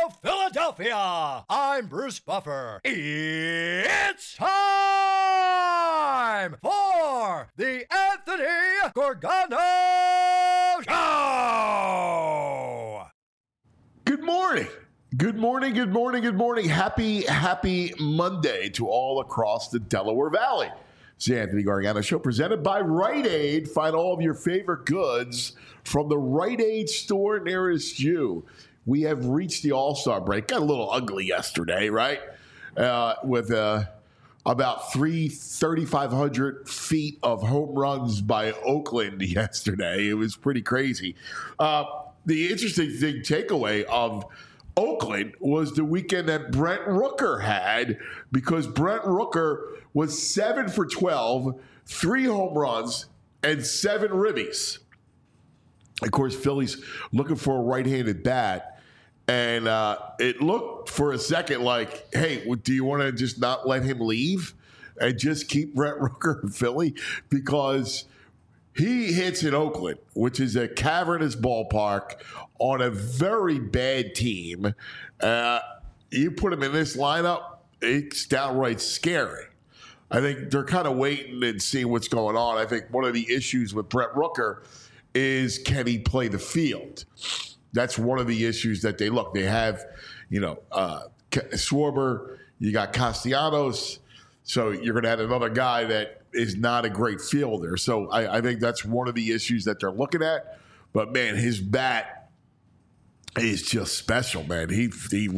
Philadelphia. I'm Bruce Buffer. It's time for the Anthony Gorgano Show. Good morning. Good morning, good morning, good morning. Happy Monday to all across the Delaware Valley. It's the Anthony Gargano Show presented by Rite Aid. Find all of your favorite goods from the Rite Aid store nearest you. We have reached the All-Star break. Got a little ugly yesterday, right? With about 3,500 feet of home runs by Oakland yesterday. It was pretty crazy. The interesting takeaway of Oakland was the weekend that Brent Rooker had, because Brent Rooker was 7 for 12, 3 home runs, and 7 ribbies. Of course, Philly's looking for a right-handed bat, and it looked for a second like, hey, do you want to just not let him leave and just keep Brent Rooker in Philly? Because he hits in Oakland, which is a cavernous ballpark on a very bad team. You put him in this lineup, it's downright scary. I think they're kind of waiting and seeing what's going on. I think one of the issues with Brent Rooker is, can he play the field? That's one of the issues that they look. They have, Schwarber, you got Castellanos, so you're going to have another guy that is not a great fielder. So I think that's one of the issues that they're looking at. But, man, his bat is just special, man. He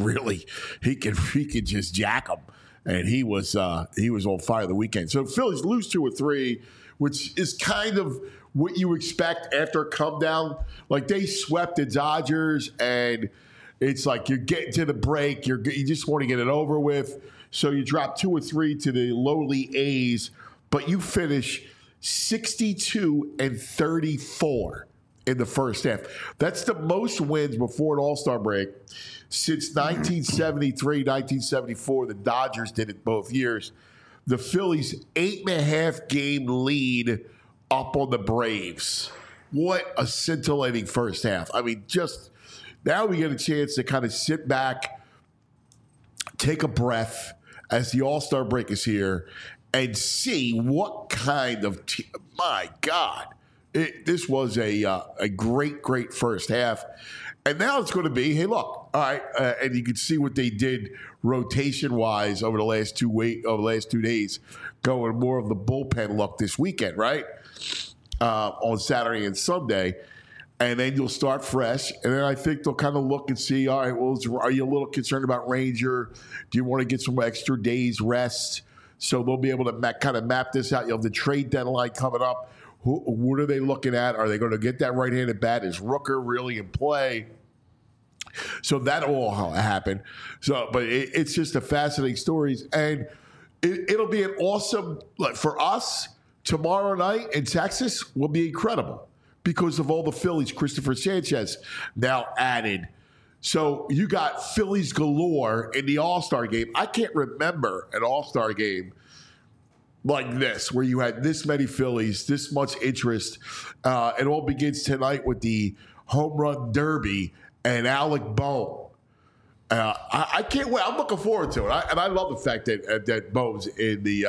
can just jack him. And he was on fire the weekend. So Phillies lose 2 or 3, which is kind of what you expect after a come down. Like, they swept the Dodgers, and it's like you're getting to the break. You just want to get it over with. So you drop 2 or 3 to the lowly A's, but you finish 62 and 34 in the first half. That's the most wins before an All-Star break since 1973, 1974. The Dodgers did it both years. The Phillies' 8.5 game lead up on the Braves. What a scintillating first half. I mean, just now we get a chance to kind of sit back, take a breath as the All-Star break is here, and see what kind of my God. This was a great first half. And now it's going to be, hey, look, all right, and you can see what they did rotation-wise over the last 2 days, going more of the bullpen look this weekend, right, on Saturday and Sunday. And then you'll start fresh. And then I think they'll kind of look and see, all right, well, are you a little concerned about Ranger? Do you want to get some extra days rest? So they'll be able to kind of map this out. You'll have the trade deadline coming up. What are they looking at? Are they going to get that right-handed bat? Is Rooker really in play? So that all happen. So, but it's just a fascinating stories, and it'll be an awesome, like, for us tomorrow night in Texas will be incredible because of all the Phillies. Christopher Sanchez now added. So you got Phillies galore in the All-Star game. I can't remember an All-Star game like this, where you had this many Phillies, this much interest. It all begins tonight with the home run derby and Alec Bohm. I can't wait. I'm looking forward to it. I love the fact that Bohm's in the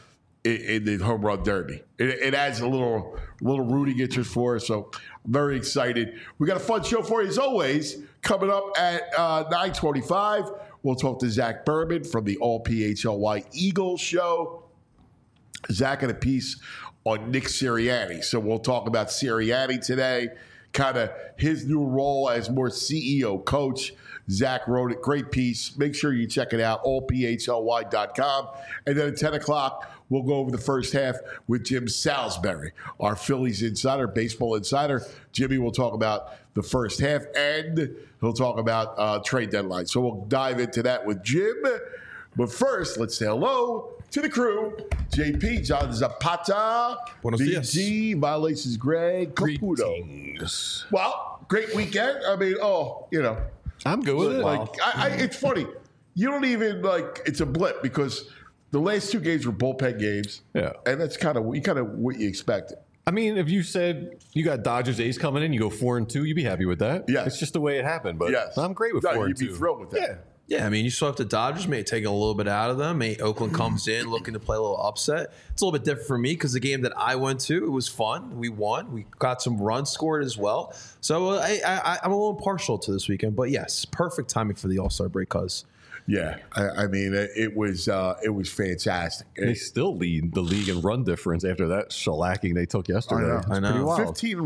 home run derby. It adds a little rooting interest for us. So I'm very excited. We got a fun show for you as always. Coming up at 9:25, we'll talk to Zach Berman from the All PHLY Eagles show. Zach had a piece on Nick Sirianni. So we'll talk about Sirianni today, kind of his new role as more CEO coach. Zach wrote it. Great piece. Make sure you check it out, allphly.com. And then at 10 o'clock, we'll go over the first half with Jim Salisbury, our Phillies insider, baseball insider. Jimmy will talk about the first half, and he'll talk about trade deadline. So we'll dive into that with Jim. But first, let's say hello to the crew. JP, John Zapata, Buenos dias. BG, Violations Greg, Caputo. Well, great weekend. I mean, I'm good with it. like, it's funny. You don't even, it's a blip because the last 2 games were bullpen games. Yeah. And that's kind of what you expected. I mean, if you said you got Dodgers A's coming in, you go 4-2, you'd be happy with that. Yeah. It's just the way it happened. But Yes. I'm great with 4-2. You'd be thrilled with that. Yeah. Yeah, I mean, you swept the Dodgers, maybe taking a little bit out of them. Maybe Oakland comes in looking to play a little upset. It's a little bit different for me because the game that I went to, it was fun. We won. We got some runs scored as well. So I'm a little partial to this weekend. But yes, perfect timing for the All-Star break, cuz. Yeah, I mean, it was fantastic. They still lead the league in run difference after that shellacking they took yesterday. I know. It's pretty wild.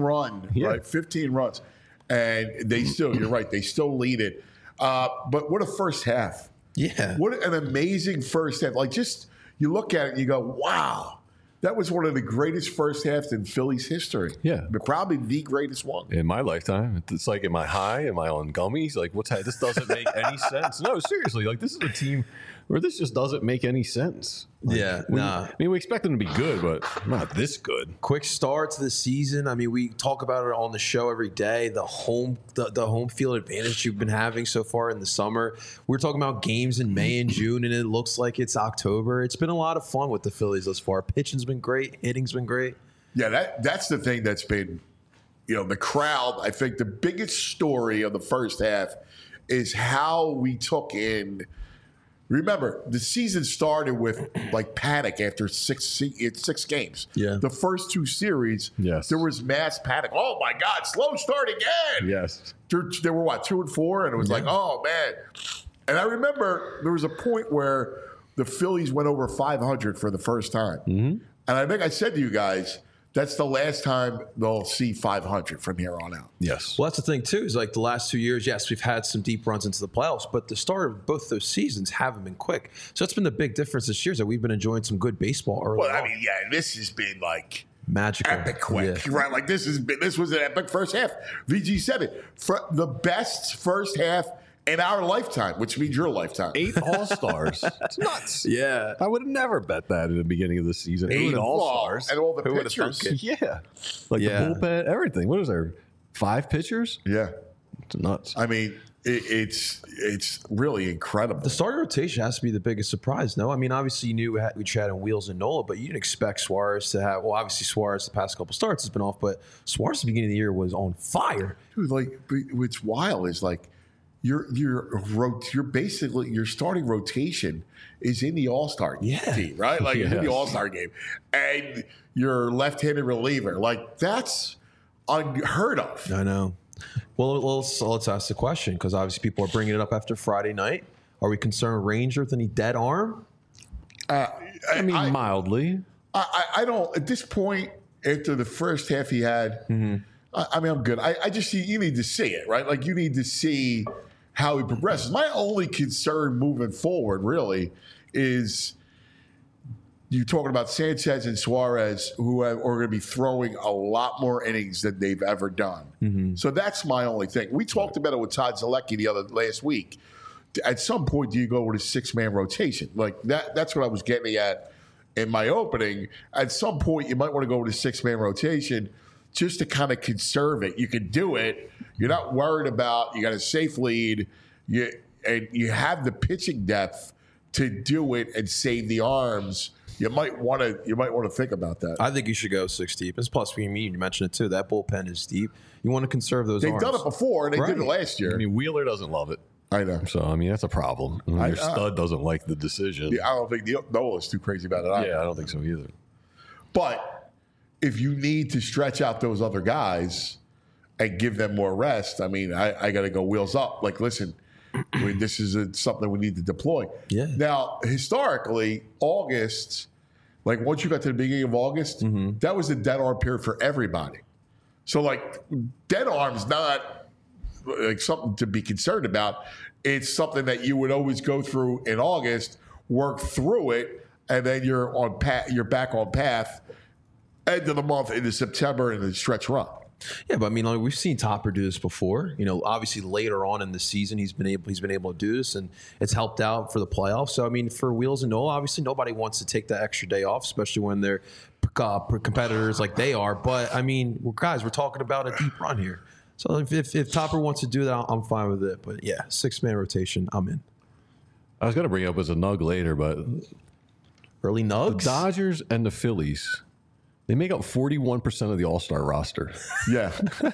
15 right? 15 runs. And they still, you're right, they still lead it. But what a first half. Yeah. What an amazing first half. Like, just, you look at it and you go, wow, that was one of the greatest first halves in Phillies history. Yeah. But probably the greatest one. In my lifetime, it's like, am I high? Am I on gummies? Like, this doesn't make any sense. No, seriously, like, this is a team where this just doesn't make any sense. Like, I mean, we expect them to be good, but not this good. Quick start to the season. I mean, we talk about it on the show every day. The home field advantage you've been having so far in the summer. We're talking about games in May and June, and it looks like it's October. It's been a lot of fun with the Phillies thus far. Pitching's been great. Hitting's been great. Yeah, that's the thing that's been, the crowd. I think the biggest story of the first half is how we took in. Remember, the season started with like panic after six games. Yeah. The first two series, Yes. there was mass panic. Oh my God, slow start again. Yes. They were 2-4, and it was like, oh man. And I remember there was a point where the Phillies went over 500 for the first time. Mm-hmm. And I think I said to you guys, that's the last time they'll see 500 from here on out. Yes. Well, that's the thing, too, is like the last 2 years, yes, we've had some deep runs into the playoffs, but the start of both those seasons haven't been quick. So that's been the big difference this year is that we've been enjoying some good baseball early Well, on. I mean, yeah, this has been like Magical. epic quick, Yeah. right? Like this was an epic first half. VG said it. For the best first half in our lifetime, which means your lifetime. 8 All-Stars. It's nuts. Yeah. I would have never bet that in the beginning of the season. 8 All-Stars. And all the Who would've pitchers. thunk it? Yeah. Like Yeah. the bullpen, everything. What is there? 5 pitchers? Yeah. It's nuts. I mean, it's really incredible. The starting rotation has to be the biggest surprise, no? I mean, obviously you knew we had in Wheels and Nola, but you didn't expect Suarez to have, well, obviously Suarez the past couple starts has been off, but Suarez at the beginning of the year was on fire. Dude, like, what's wild is like your starting rotation is in the All-Star team, right? Like it's in the Yes. All-Star game. And your left-handed reliever, like that's unheard of. I know. Well, let's ask the question, because obviously people are bringing it up after Friday night. Are we concerned Ranger with any dead arm? I mean, mildly. I don't, at this point, after the first half he had, I mean, I'm good. I just see, you need to see it, right? Like you need to see how he progresses. My only concern moving forward really is you're talking about Sanchez and Suarez, who are going to be throwing a lot more innings than they've ever done. So that's my only thing. We talked about it with Todd Zalecki last week. At some point, do you go with a 6-man rotation? Like that's what I was getting at in my opening. At some point, you might want to go with a 6-man rotation just to kind of conserve it. You can do it. You're not worried about, you got a safe lead, and you have the pitching depth to do it and save the arms. You might want to think about that. I think you should go 6 deep. And plus, you mentioned it too. That bullpen is deep. You want to conserve those They've arms. done it before, and they did it last year. I mean, Wheeler doesn't love it. I know. So, I mean, that's a problem. Your stud doesn't like the decision. Yeah, I don't think Nola's too crazy about it either. Yeah, I don't think so either. But if you need to stretch out those other guys and give them more rest, I mean, I got to go wheels up. Like, listen, this is something we need to deploy. Yeah. Now, historically, August, like once you got to the beginning of August, that was the dead arm period for everybody. So, like, dead arm's not like something to be concerned about. It's something that you would always go through in August, work through it, and then you're back on path end of the month into September and the stretch run. Yeah, but I mean, like, we've seen Topper do this before. You know, obviously later on in the season, he's been able to do this, and it's helped out for the playoffs. So I mean, for Wheels and Nola, obviously nobody wants to take that extra day off, especially when they're competitors like they are. But I mean, we're talking about a deep run here. So if Topper wants to do that, I'm fine with it. But yeah, 6-man rotation, I'm in. I was going to bring it up as a nug later, but Early the nugs. Dodgers and the Phillies They make up 41% of the All-Star roster. Yeah.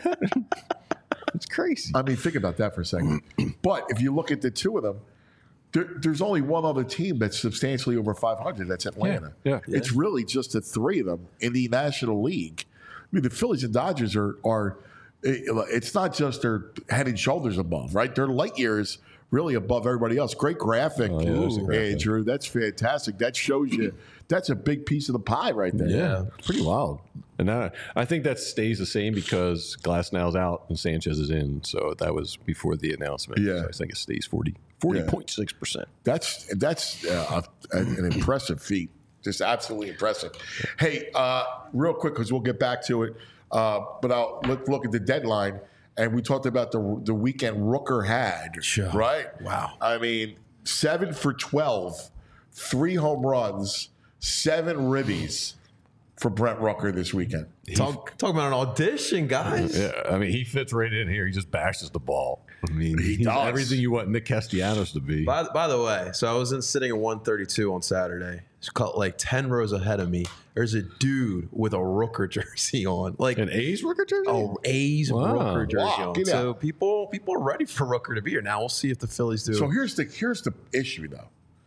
It's crazy. I mean, think about that for a second. But if you look at the two of them, there's only one other team that's substantially over 500. That's Atlanta. Yeah. It's really just the three of them in the National League. I mean, the Phillies and Dodgers are it's not just they're head and shoulders above, right? They're light years really above everybody else. Great graphic, Andrew. That's fantastic. That shows you that's a big piece of the pie right there. Yeah, pretty wild. And I think that stays the same because Glasnow's out and Sanchez is in. So that was before the announcement. Yeah. So I think it stays 40.6%. That's an impressive feat. Just absolutely impressive. Hey, real quick, because we'll get back to it, but I'll look at the deadline. And we talked about the weekend Rooker had, right? Wow. I mean, 7 for 12, 3 home runs, 7 ribbies for Brent Rooker this weekend. Talk about an audition, guys. Yeah, I mean, he fits right in here. He just bashes the ball. I mean, he's does. everything you want Nick Castellanos to be. By the way, so I was sitting at 132 on Saturday. It's called like 10 rows ahead of me. There's a dude with a Rooker jersey on, like An A's Rooker jersey? Oh, A's Rooker jersey Wow, on. get So out. people are ready for Rooker to be here. Now we'll see if the Phillies do. So here's the issue, though.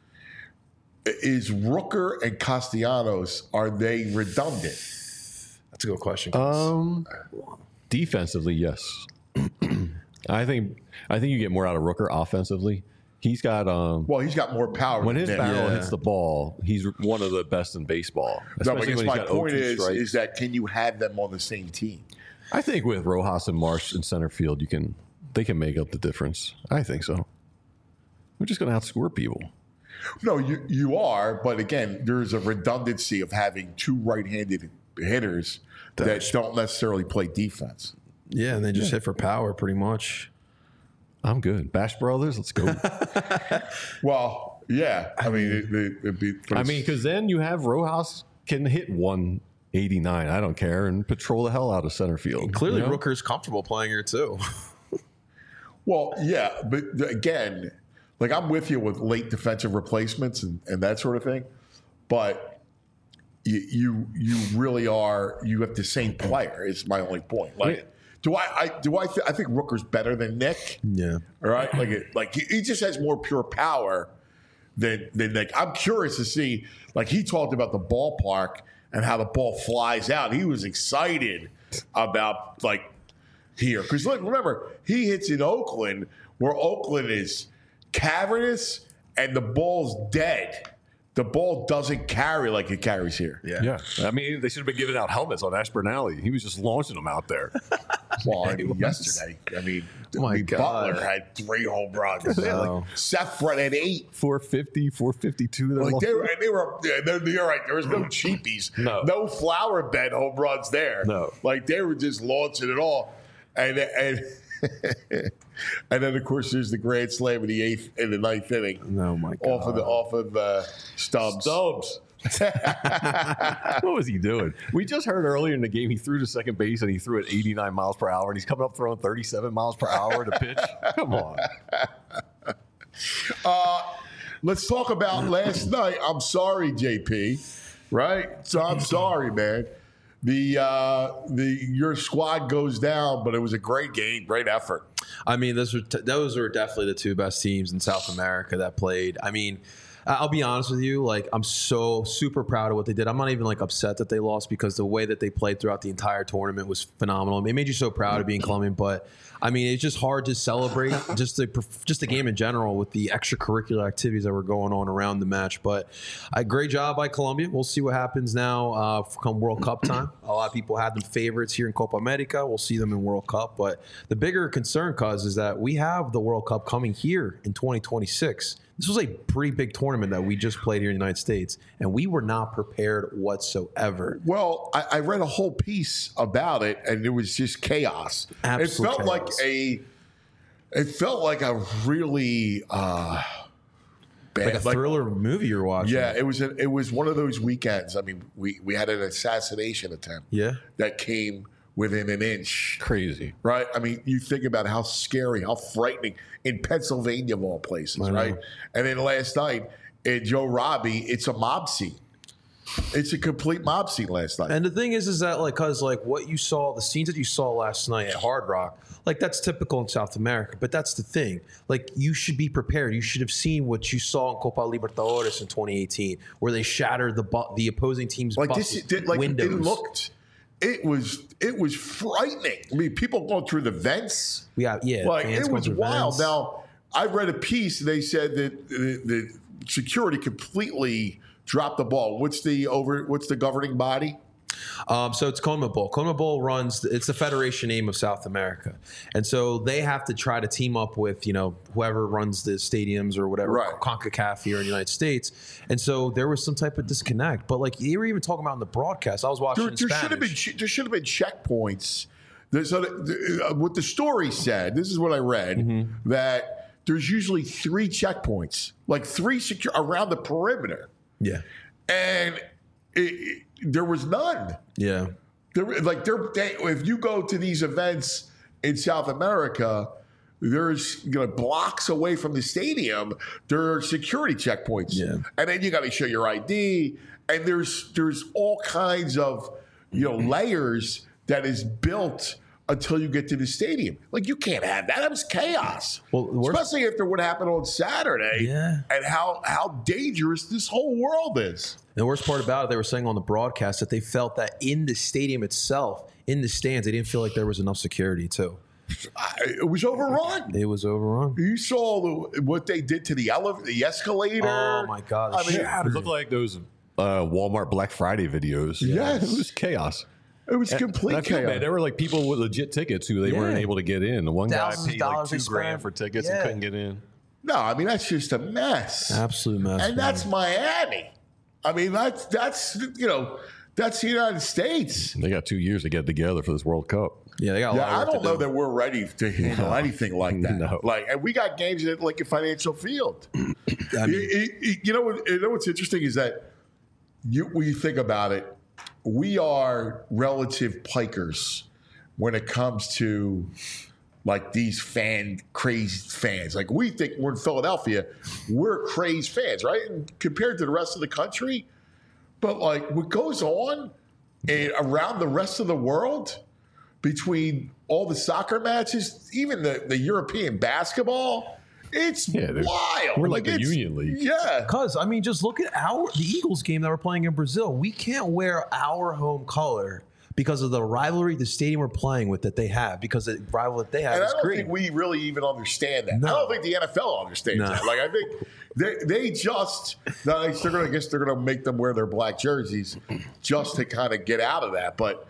Is Rooker and Castellanos, are they redundant? That's a good question. guys. Defensively, yes. I think you get more out of Rooker offensively. He's got Well, he's got more power. when his than barrel Yeah. hits the ball, he's one of the best in baseball. No, but I Especially guess when my he's got point 0-2 strikes. is that can you have them on the same team? I think with Rojas and Marsh in center field, they can make up the difference. I think so. We're just going to outscore people. No, you are, but again, there's a redundancy of having 2 right-handed hitters that don't necessarily play defense. Yeah, and they just hit for power pretty much. I'm good. Bash Brothers, let's go. Well, yeah, I mean, it'd be. because then you have Rojas can hit 189. I don't care, and patrol the hell out of center field. Clearly, you know? Rooker's comfortable playing here too. Well, yeah, but again, like I'm with you with late defensive replacements and that sort of thing, but you really are. You have the same player. Is my only point. Like, I think Rooker's better than Nick. Yeah. All right, like he just has more pure power than Nick. I'm curious to see. Like he talked about the ballpark and how the ball flies out. He was excited about like here because look, remember he hits in Oakland where Oakland is cavernous and the ball's dead. The ball doesn't carry like it carries here. Yeah. I mean, they should have been giving out helmets on Ashburn Alley. He was just launching them out there. Well, I mean, yesterday, My God. Butler had 3 home runs. Wow. Seth Brett had 8. 450, 452. Like they were you're right. There was no cheapies, no flower bed home runs there. No. Like they were just launching it all, and and then of course there's the grand slam in the 8th and the 9th inning. Oh my God. Off of Stubbs. What was he doing? We just heard earlier in the game he threw to second base and he threw at 89 miles per hour and he's coming up throwing 37 miles per hour to pitch. Come on. Let's talk about last night. I'm sorry, JP. Right? So I'm sorry, man. Your squad goes down, but it was a great game, great effort. I mean, those are definitely the 2 best teams in South America that played. I mean, I'll be honest with you. Like, I'm so super proud of what they did. I'm not even like upset that they lost because the way that they played throughout the entire tournament was phenomenal. It made you so proud of being Colombian. But I mean, it's just hard to celebrate just the game in general with the extracurricular activities that were going on around the match. But great job by Colombia. We'll see what happens now come World Cup time. A lot of people had them favorites here in Copa America. We'll see them in World Cup. But the bigger concern, Cuz, is that we have the World Cup coming here in 2026. This was a pretty big tournament that we just played here in the United States, and we were not prepared whatsoever. Well, I read a whole piece about it, and it was just chaos. Absolute it felt like a really bad, Like a thriller movie you're watching. Yeah, it was one of those weekends. I mean, we had an assassination attempt. Yeah. That came within an inch. Crazy. Right? I mean, you think about how scary, how frightening in Pennsylvania of all places, right? And then last night at Joe Robbie, it's a mob scene. It's a complete mob scene last night. And the thing is that because what you saw, the scenes that you saw last night at Hard Rock, that's typical in South America. But that's the thing. You should be prepared. You should have seen what you saw in Copa Libertadores in 2018, where they shattered the opposing team's windows. It was frightening. I mean, people going through the vents. Yeah. It was wild. Now, I read a piece. They said that the security completely dropped the ball. What's the governing body? So it's CONMEBOL. CONMEBOL it's the federation name of South America. And so they have to try to team up with, whoever runs the stadiums or whatever, right. CONCACAF here in the United States. And so there was some type of disconnect. But you were even talking about in the broadcast. I was watching in Spanish. There should have been checkpoints. What the story said, this is what I read, that there's usually 3 checkpoints, 3 around the perimeter. Yeah. And there was none. Yeah. If you go to these events in South America, there's blocks away from the stadium, there are security checkpoints. Yeah. And then you got to show your ID. And there's all kinds of layers that is built until you get to the stadium. You can't have that. That was chaos. Well, especially after what happened on Saturday and how dangerous this whole world is. The worst part about it, they were saying on the broadcast that they felt that in the stadium itself, in the stands, they didn't feel like there was enough security, too. It was overrun. It was overrun. You saw what they did to the escalator. Oh, my God. It looked like those Walmart Black Friday videos. Yes. It was chaos. It was complete chaos. There were people with legit tickets who they weren't able to get in. The one guy paid $2,000 for tickets and couldn't get in. No, I mean, that's just a mess. Absolute mess. And that's Miami. I mean, that's the United States. They got 2 years to get together for this World Cup. Yeah, they got a lot of work I don't know that we're ready to handle anything like that. No. And we got games at a Financial Field. I mean, you know what's interesting is that when you think about it, we are relative pikers when it comes to these crazed fans. We think we're in Philadelphia, we're crazed fans, right? And compared to the rest of the country. But what goes on around the rest of the world between all the soccer matches, even the European basketball, it's wild. We're like a Union League. Yeah. Because, just look at the Eagles game that we're playing in Brazil. We can't wear our home color because of the rivalry, the stadium we're playing with that they have, because the rival that they have is green. I don't think we really even understand that. No. I don't think the NFL understands that. I think they just, they're going to make them wear their black jerseys just to kind of get out of that. But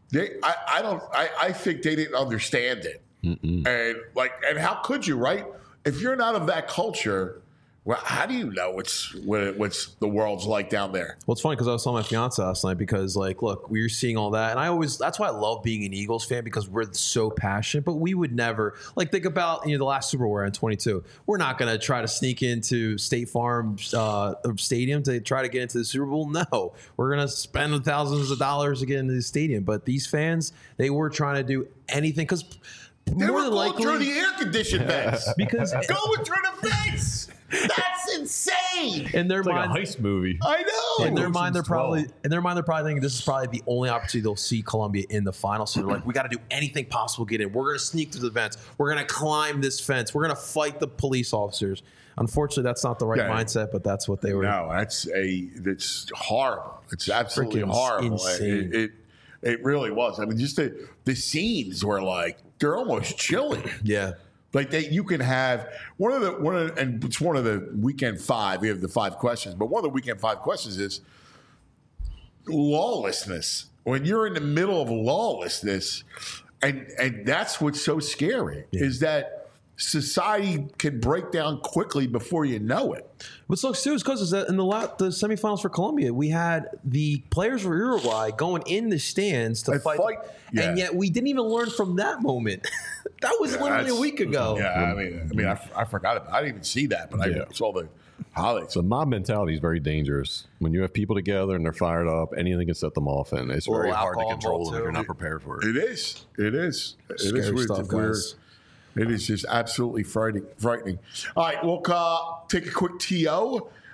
I think they didn't understand it. And how could you, right? If you're not of that culture, well, how do you know what's the world's like down there? Well, it's funny because I was telling my fiance last night because, look, we were seeing all that. And that's why I love being an Eagles fan, because we're so passionate. But we would never, think about, the last Super Bowl we're in 22. We're not going to try to sneak into State Farm Stadium to try to get into the Super Bowl. No. We're going to spend thousands of dollars to get into the stadium. But these fans, they were trying to do anything because they were going through the air-conditioned vents. Because going through the vents. That's insane. In their mind, like a heist movie. I know. In their mind, they're probably thinking this is probably the only opportunity they'll see Colombia in the final. So they're like, we got to do anything possible to get in. We're going to sneak through the vents. We're going to climb this fence. We're going to fight the police officers. Unfortunately, that's not the right mindset, but that's what they were. No, it's horrible. It's absolutely horrible. Insane. It really was. I mean, just the scenes were they're almost chilling. Yeah. You can have and it's one of the weekend 5. We have the 5 questions, but one of the weekend 5 questions is lawlessness. When you're in the middle of lawlessness, and that's what's so scary is that society can break down quickly before you know it. What sucks too is because in the semifinals for Colombia, we had the players for Uruguay going in the stands to fight. And yet we didn't even learn from that moment. That was literally a week ago. Yeah, I forgot about it. I didn't even see that, but I saw the highlights. So mob mentality is very dangerous. When you have people together and they're fired up, anything can set them off, and it's very hard to control them if you're not prepared for it. It is. Scary stuff, guys. It is just absolutely frightening. All right, we'll take a quick TO.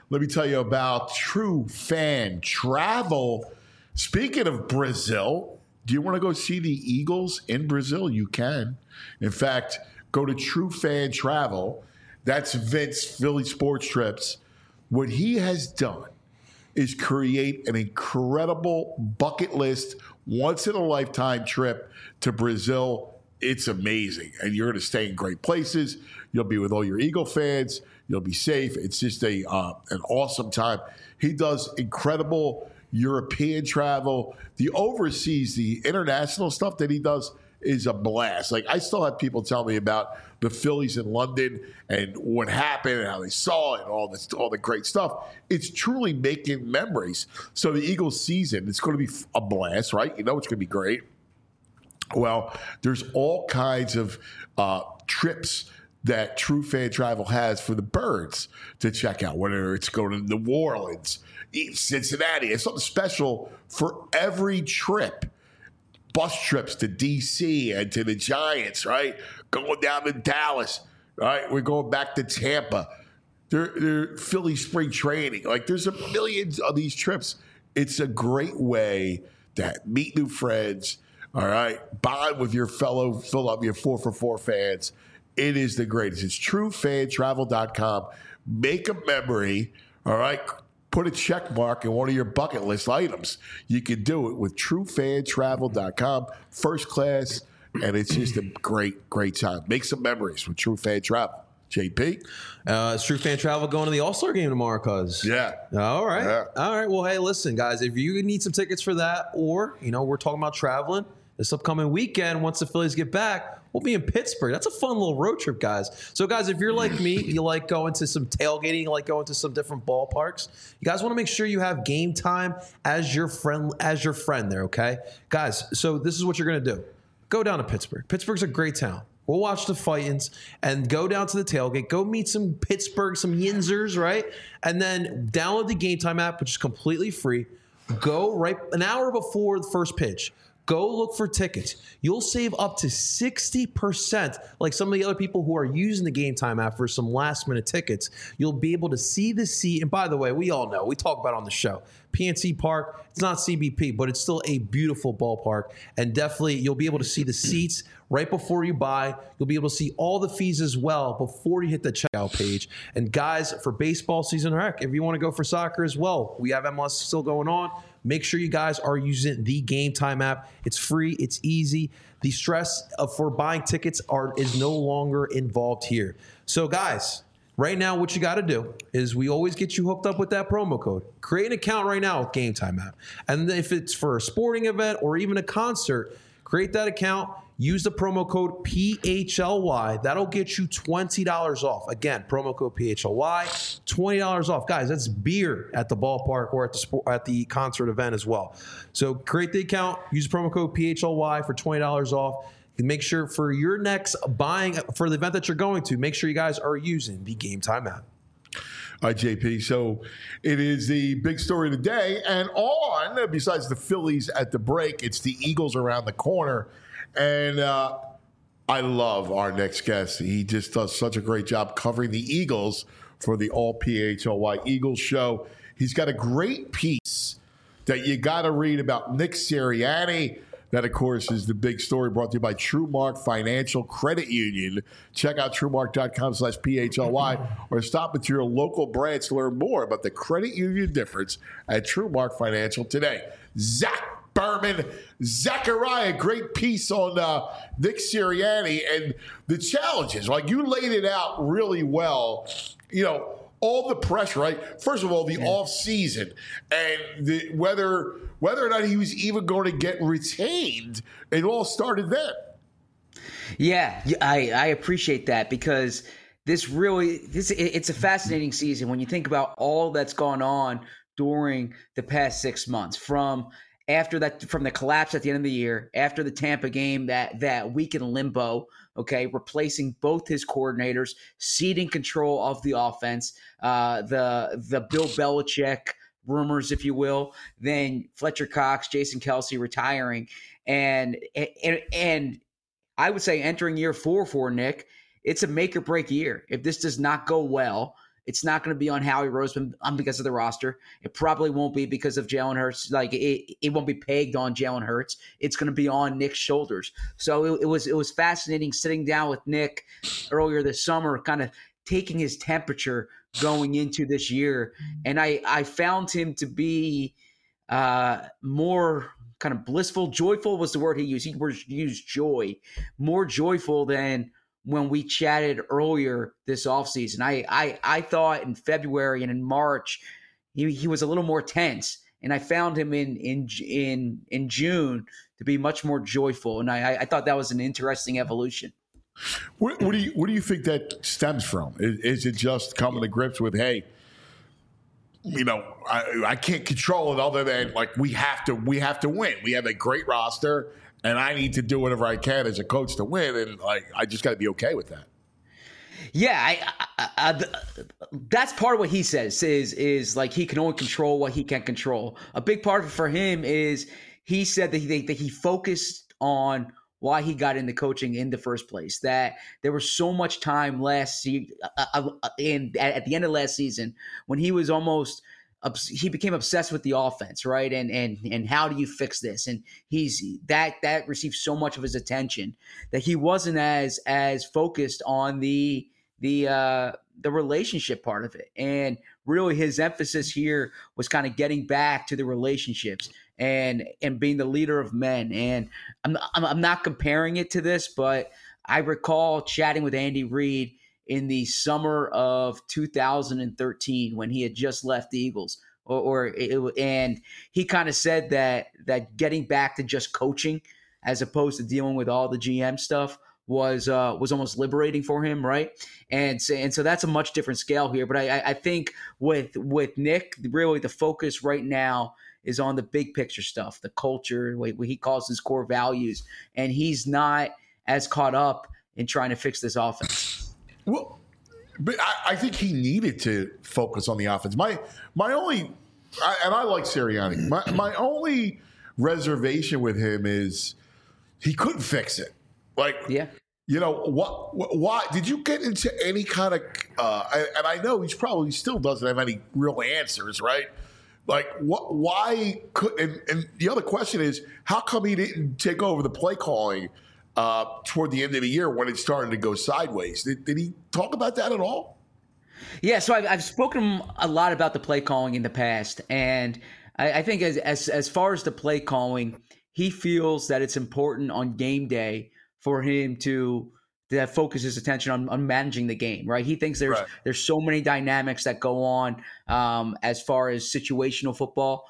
let me tell you about True Fan Travel. Speaking of Brazil, do you want to go see the Eagles in Brazil? You can. In fact, go to True Fan Travel. That's Vince, Philly Sports Trips. What he has done is create an incredible bucket list, once-in-a-lifetime trip to Brazil. It's amazing. And you're going to stay in great places. You'll be with all your Eagle fans. You'll be safe. It's just an awesome time. He does incredible European travel. The overseas, the international stuff that he does is a blast. Like, I still have people tell me about the Phillies in London and what happened and how they saw it and all the great stuff. It's truly making memories. So the Eagles season, it's going to be a blast, right? You know it's going to be great. Well, there's all kinds of trips that True Fan Travel has for the birds to check out, whether it's going to New Orleans, Cincinnati. It's something special for every trip. Bus trips to D.C. and to the Giants, right? Going down to Dallas, right? We're going back to Tampa. They're Philly spring training. Like, there's a million of these trips. It's a great way to meet new friends, all right? Bond with your fellow Philadelphia 4for4 fans. It is the greatest. It's truefantravel.com. Make a memory, all right? Put a check mark in one of your bucket list items. You can do it with truefantravel.com. First class, and it's just a great, great time. Make some memories with True Fan Travel. JP? Is True Fan Travel going to the All-Star game tomorrow, cuz? Yeah. All right. Yeah. All right. Well, hey, listen, guys, if you need some tickets for that, or, we're talking about traveling this upcoming weekend, once the Phillies get back, we'll be in Pittsburgh. That's a fun little road trip, guys. So, guys, if you're like me, you like going to some tailgating, you like going to some different ballparks, you guys want to make sure you have Game Time as your friend there, okay? Guys, so this is what you're going to do. Go down to Pittsburgh. Pittsburgh's a great town. We'll watch the Fightins and go down to the tailgate. Go meet some Pittsburgh, some Yinzers, right? And then download the Game Time app, which is completely free. Go right an hour before the first pitch. Go look for tickets. You'll save up to 60%. Like some of the other people who are using the Game Time app for some last-minute tickets, you'll be able to see the seat. And by the way, we all know, we talk about it on the show, PNC Park, it's not CBP, but it's still a beautiful ballpark. And definitely, you'll be able to see the seats right before you buy. You'll be able to see all the fees as well before you hit the checkout page. And guys, for baseball season, heck, if you want to go for soccer as well, we have MLS still going on. Make sure you guys are using the Game Time app. It's free. It's easy. The stress for buying tickets is no longer involved here. So, guys, right now what you got to do is we always get you hooked up with that promo code. Create an account right now with Game Time app. And if it's for a sporting event or even a concert, create that account. Use the promo code PHLY. That'll get you $20 off. Again, promo code PHLY, $20 off. Guys, that's beer at the ballpark or at the concert event as well. So create the account, use the promo code PHLY for $20 off. And make sure for your next buying for the event that you're going to, make sure you guys are using the Game Time app. All right, JP. So it is the big story of the day. And besides the Phillies at the break, it's the Eagles around the corner. And I love our next guest. He just does such a great job covering the Eagles for the All PHLY Eagles show. He's got a great piece that you got to read about Nick Sirianni. That, of course, is the big story brought to you by TrueMark Financial Credit Union. Check out TrueMark.com/PHLY or stop at your local branch to learn more about the credit union difference at TrueMark Financial today. Zach Berman, Zachariah, great piece on Nick Sirianni and the challenges. Like, you laid it out really well. All the pressure, right? First of all, the off season and whether or not he was even going to get retained, it all started then. Yeah, I appreciate that because it's a fascinating season when you think about all that's gone on during the past 6 months from the collapse at the end of the year, after the Tampa game, that week in limbo, okay, replacing both his coordinators, ceding control of the offense, the Bill Belichick rumors, if you will, then Fletcher Cox, Jason Kelce retiring, and I would say entering year 4 for Nick, it's a make or break year. If this does not go well, It's not going to be on Howie Roseman because of the roster. It probably won't be because of Jalen Hurts. Like it won't be pegged on Jalen Hurts. It's going to be on Nick's shoulders. So it was fascinating sitting down with Nick earlier this summer, kind of taking his temperature going into this year. And I found him to be more kind of blissful. Joyful was the word he used. He used joy, more joyful than when we chatted earlier this offseason. I thought in February and in March he was a little more tense, and I found him in June to be much more joyful, and I thought that was an interesting evolution. What do you think that stems from? Is it just coming to grips with, hey, you know, I can't control it other than like we have to win. We have a great roster, and I need to do whatever I can as a coach to win, and like I just got to be okay with that. Yeah, that's part of what he says is like he can only control what he can control. A big part of it for him is he said that he focused on why he got into coaching in the first place. That there was so much time last season, at the end of last season, when he was he became obsessed with the offense, right? And how do you fix this? And that received so much of his attention that he wasn't as focused on the relationship part of it. And really his emphasis here was kind of getting back to the relationships and being the leader of men. And I'm not comparing it to this, but I recall chatting with Andy Reid in the summer of 2013 when he had just left the Eagles, and he kind of said that getting back to just coaching as opposed to dealing with all the GM stuff was almost liberating for him, right? And so that's a much different scale here. But I think with Nick, really the focus right now is on the big picture stuff, the culture, what he calls his core values, and he's not as caught up in trying to fix this offense. Well, but I think he needed to focus on the offense. My only, and I like Sirianni. My only reservation with him is he couldn't fix it. Like, yeah. You know, why did you get into any kind of, and I know he probably still doesn't have any real answers, right? Like, why could, and the other question is, how come he didn't take over the play calling toward the end of the year when it started to go sideways? Did he talk about that at all? Yeah, so I've spoken a lot about the play calling in the past, and I think as far as the play calling, he feels that it's important on game day for him to focus his attention on managing the game, right? He thinks there's so many dynamics that go on as far as situational football,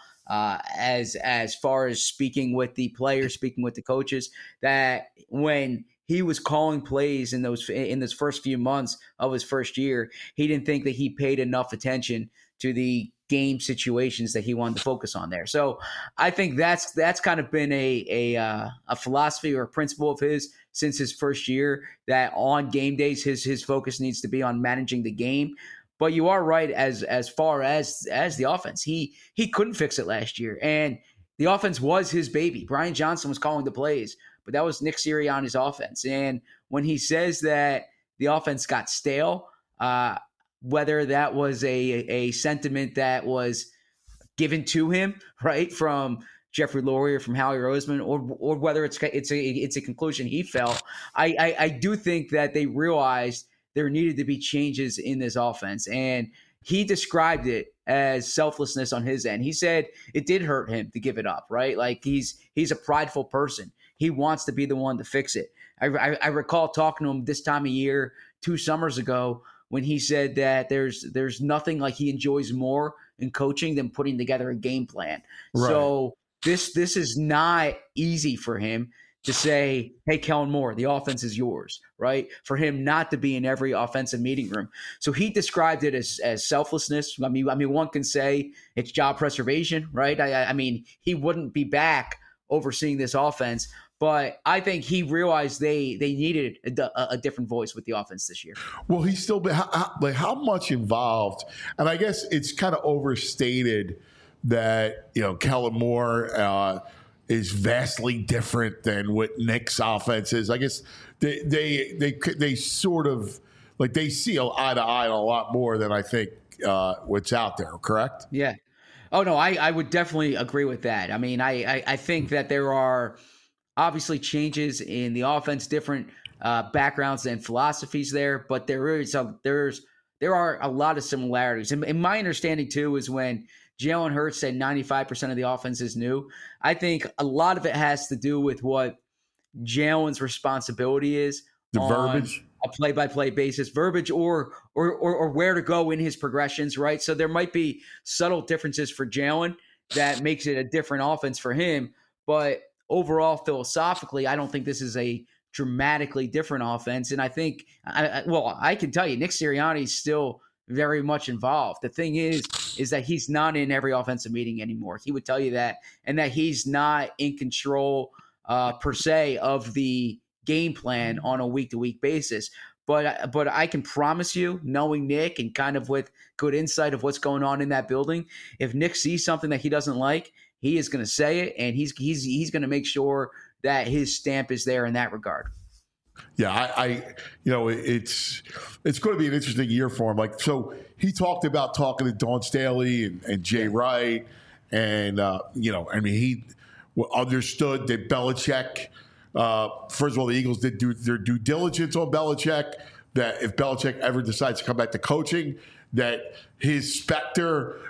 as far as speaking with the players, speaking with the coaches, that when he was calling plays in those first few months of his first year, he didn't think that he paid enough attention to the game situations that he wanted to focus on there. So I think that's kind of been a philosophy or a principle of his since his first year, that on game days his focus needs to be on managing the game. But you are right as far as the offense. He couldn't fix it last year, and the offense was his baby. Brian Johnson was calling the plays, but that was Nick Sirianni's offense. And when he says that the offense got stale, whether that was a sentiment that was given to him, right, from Jeffrey Lurie or from Howie Roseman, or whether it's a conclusion he felt, I do think that they realized there needed to be changes in this offense. And he described it as selflessness on his end. He said it did hurt him to give it up, right? Like he's a prideful person. He wants to be the one to fix it. I recall talking to him this time of year 2 summers ago when he said that there's nothing like he enjoys more in coaching than putting together a game plan. Right. So this is not easy for him to say, hey, Kellen Moore, the offense is yours, right? For him not to be in every offensive meeting room. So he described it as selflessness. I mean, one can say it's job preservation, right? I mean, he wouldn't be back overseeing this offense, but I think he realized they needed a different voice with the offense this year. Well, he's still been how much involved, and I guess it's kind of overstated that Kellen Moore is vastly different than what Nick's offense is. I guess they sort of like they see eye to eye on a lot more than I think what's out there. Correct? Yeah. Oh no, I would definitely agree with that. I mean, I think that there are obviously changes in the offense, different backgrounds and philosophies there, but there are a lot of similarities. And my understanding too is when Jalen Hurts said 95% of the offense is new, I think a lot of it has to do with what Jalen's responsibility is, the on verbiage, a play-by-play basis, verbiage or where to go in his progressions, right? So there might be subtle differences for Jalen that makes it a different offense for him, but overall, philosophically, I don't think this is a dramatically different offense. And I think, I can tell you, Nick Sirianni is still very much involved. The thing is that he's not in every offensive meeting anymore. He would tell you that, and that he's not in control per se of the game plan on a week-to-week basis. But I can promise you, knowing Nick and kind of with good insight of what's going on in that building, if Nick sees something that he doesn't like, he is going to say it, and he's going to make sure that his stamp is there in that regard. Yeah, it's going to be an interesting year for him. Like, so he talked about talking to Dawn Staley and Jay Wright, and he understood that Belichick. First of all, the Eagles did do their due diligence on Belichick. That if Belichick ever decides to come back to coaching, that his specter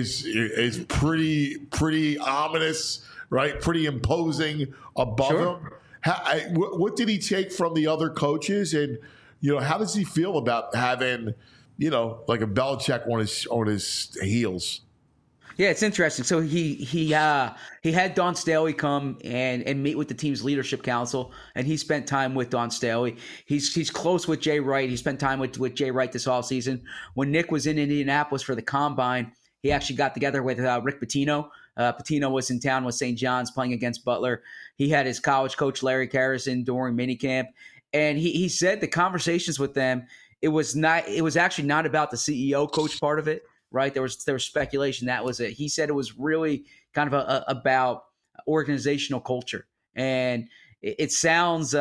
is pretty ominous, right? Pretty imposing above him. What did he take from the other coaches, and how does he feel about having like a Belichick on his heels? Yeah, it's interesting. So he had Dawn Staley come and meet with the team's leadership council, and he spent time with Dawn Staley. He's close with Jay Wright. He spent time with Jay Wright this offseason. When Nick was in Indianapolis for the Combine, he actually got together with Rick Pitino. Pitino was in town with St. John's playing against Butler. He had his college coach, Larry Carrison, during minicamp. And he said the conversations with them, it was actually not about the CEO coach part of it. Right. There was speculation that was it. He said it was really kind of about organizational culture. And it sounds,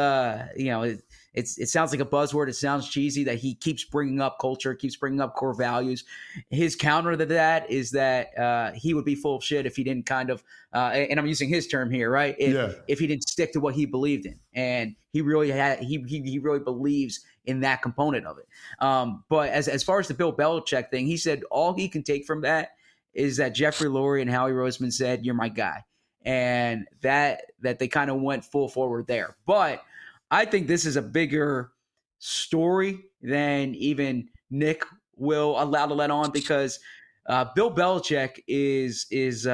it sounds like a buzzword. It sounds cheesy that he keeps bringing up culture, keeps bringing up core values. His counter to that is that he would be full of shit if he didn't kind of, and I'm using his term here, right? If he didn't stick to what he believed in. And he really he really believes in that component of it. But as far as the Bill Belichick thing, he said all he can take from that is that Jeffrey Lurie and Howie Roseman said, "You're my guy." And that they kind of went full forward there. But I think this is a bigger story than even Nick will allow to let on, because Bill Belichick is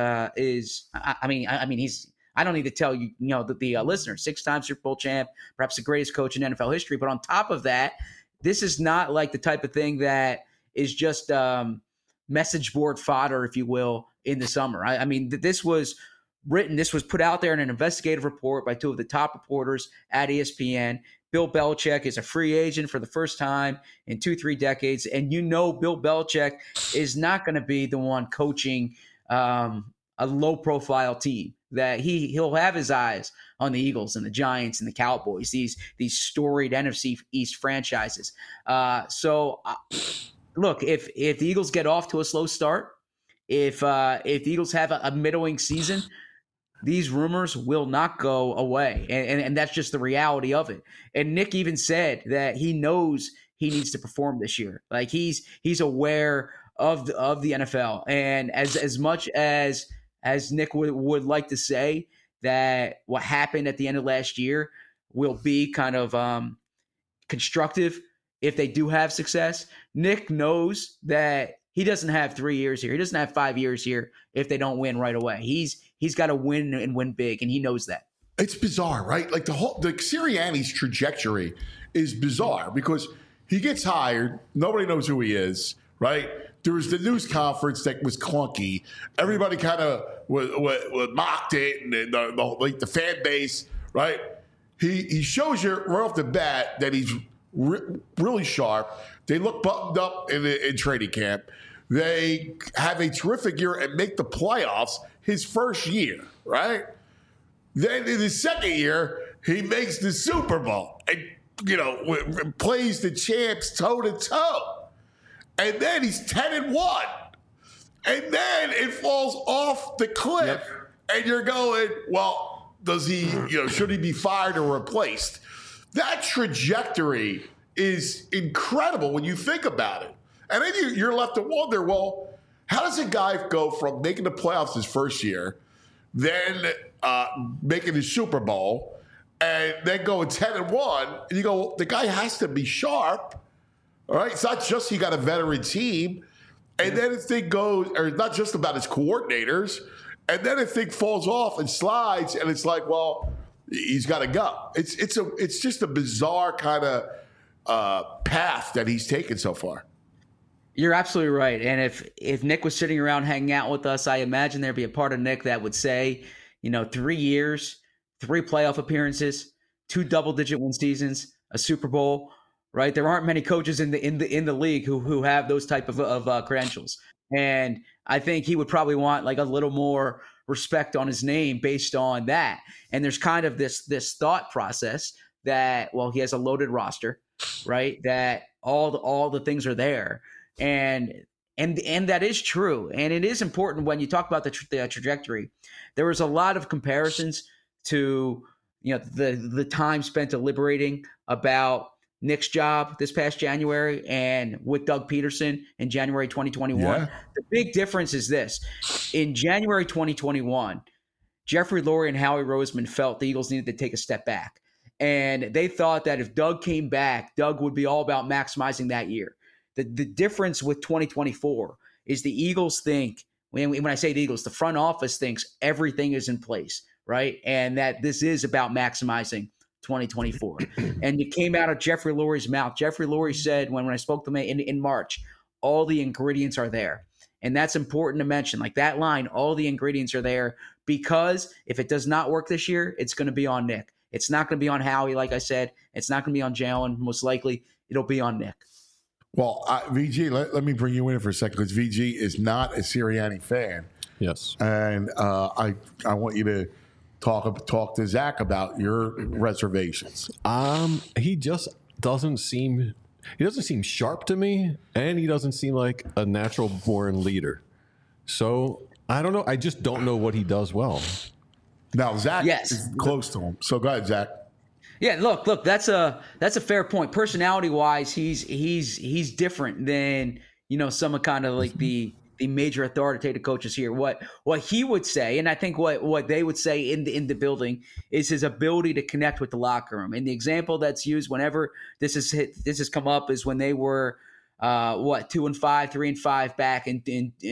I mean he's, I don't need to tell you, the listeners, 6-time Super Bowl champ, perhaps the greatest coach in NFL history. But on top of that, this is not like the type of thing that is just message board fodder, if you will, in the summer. I mean, this was written, this was put out there in an investigative report by two of the top reporters at ESPN. Bill Belichick is a free agent for the first time in 2-3 decades. And Bill Belichick is not going to be the one coaching a low-profile team. That he'll have his eyes on the Eagles and the Giants and the Cowboys, these storied NFC East franchises. Look, if the Eagles get off to a slow start, if the Eagles have a middling season, these rumors will not go away, and that's just the reality of it. And Nick even said that he knows he needs to perform this year. Like he's aware of the NFL, and as much as Nick would like to say that what happened at the end of last year will be kind of constructive if they do have success, Nick knows that he doesn't have 3 years here. He doesn't have 5 years here if they don't win right away. He's got to win and win big, and he knows that. It's bizarre, right? Like the Sirianni's trajectory is bizarre because he gets hired, nobody knows who he is, right? There was the news conference that was clunky. Everybody kind of mocked it, and the fan base, right? He shows you right off the bat that he's really sharp. They look buttoned up in training camp. They have a terrific year and make the playoffs his first year, right? Then in his second year, he makes the Super Bowl. And plays the champs toe to toe, and then he's 10-1, and then it falls off the cliff, and you're going, well, does he? Should he be fired or replaced? That trajectory is incredible when you think about it, and then you're left to wonder, well, how does a guy go from making the playoffs his first year, then making the Super Bowl, and then going 10-1, and you go, well, the guy has to be sharp, all right? It's not just he got a veteran team, and then the thing goes, or it's not just about his coordinators, and then the thing falls off and slides, and it's like, well, he's got to go. It's just a bizarre kind of path that he's taken so far. You're absolutely right. And if Nick was sitting around hanging out with us, I imagine there'd be a part of Nick that would say, 3 years, 3 playoff appearances, 2 double-digit win seasons, a Super Bowl, right? There aren't many coaches in the league who have those type of credentials. And I think he would probably want like a little more respect on his name based on that. And there's kind of this thought process that, well, he has a loaded roster, right? That all the things are there. And that is true. And it is important when you talk about the trajectory. There was a lot of comparisons to, the time spent deliberating about Nick's job this past January and with Doug Peterson in January 2021. Yeah. The big difference is this. In January 2021, Jeffrey Lurie and Howie Roseman felt the Eagles needed to take a step back. And they thought that if Doug came back, Doug would be all about maximizing that year. The difference with 2024 is the Eagles think, when I say the Eagles, the front office thinks everything is in place, right? And that this is about maximizing 2024. And it came out of Jeffrey Lurie's mouth. Jeffrey Lurie said when I spoke to him in March, all the ingredients are there. And that's important to mention. Like that line, all the ingredients are there, because if it does not work this year, it's going to be on Nick. It's not going to be on Howie, like I said. It's not going to be on Jalen. Most likely, it'll be on Nick. Well, VG, let me bring you in for a second, because VG is not a Sirianni fan. Yes. And I want you to talk to Zach about your reservations. He just doesn't seem sharp to me, and he doesn't seem like a natural born leader. So I don't know. I just don't know what he does well. Now Zach is close to him. So go ahead, Zach. Yeah, look, that's a fair point. Personality wise, he's different than, some of kind of like the major authoritative coaches here. What he would say, and I think what they would say in the building, is his ability to connect with the locker room. And the example that's used whenever this has come up is when they were 2-5, 3-5 back in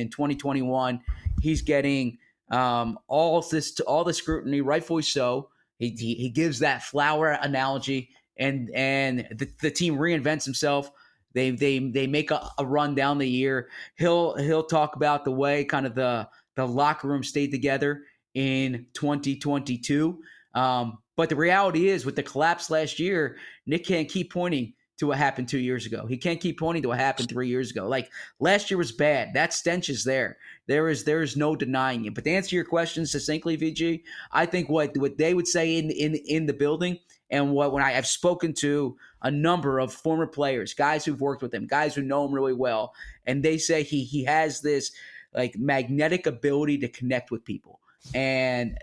2021. He's getting all the scrutiny, rightfully so. He gives that flower analogy, and the team reinvents himself. They make a run down the year. He'll talk about the way kind of the locker room stayed together in 2022. But the reality is, with the collapse last year, Nick can't keep pointing to what happened 2 years ago. He can't keep pointing to what happened 3 years ago. Like last year was bad. That stench is there. There is no denying it. But to answer your question succinctly, VG, I think what they would say in the building, and when I've spoken to a number of former players, guys who've worked with him, guys who know him really well, and they say he has this like magnetic ability to connect with people. And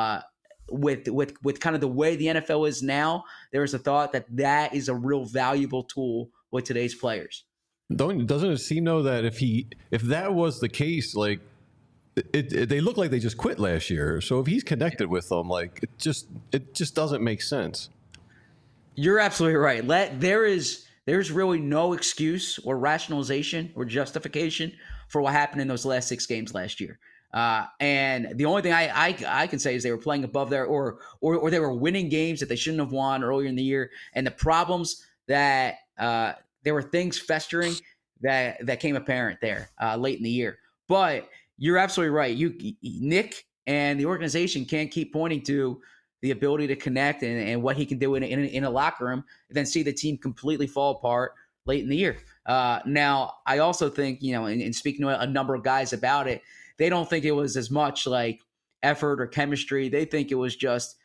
with kind of the way the NFL is now, there is a thought that is a real valuable tool with today's players. Doesn't it seem though that if that was the case, like they look like they just quit last year. So if he's connected with them, like it just doesn't make sense. You're absolutely right. There's really no excuse or rationalization or justification for what happened in those last 6 games last year. And the only thing I can say is they were playing above their or they were winning games that they shouldn't have won earlier in the year. And the problems that there were things festering that came apparent there late in the year. But you're absolutely right. Nick and the organization can't keep pointing to the ability to connect and what he can do in a locker room, and then see the team completely fall apart late in the year. Now, I also think, in speaking to a number of guys about it, they don't think it was as much like effort or chemistry. They think it was just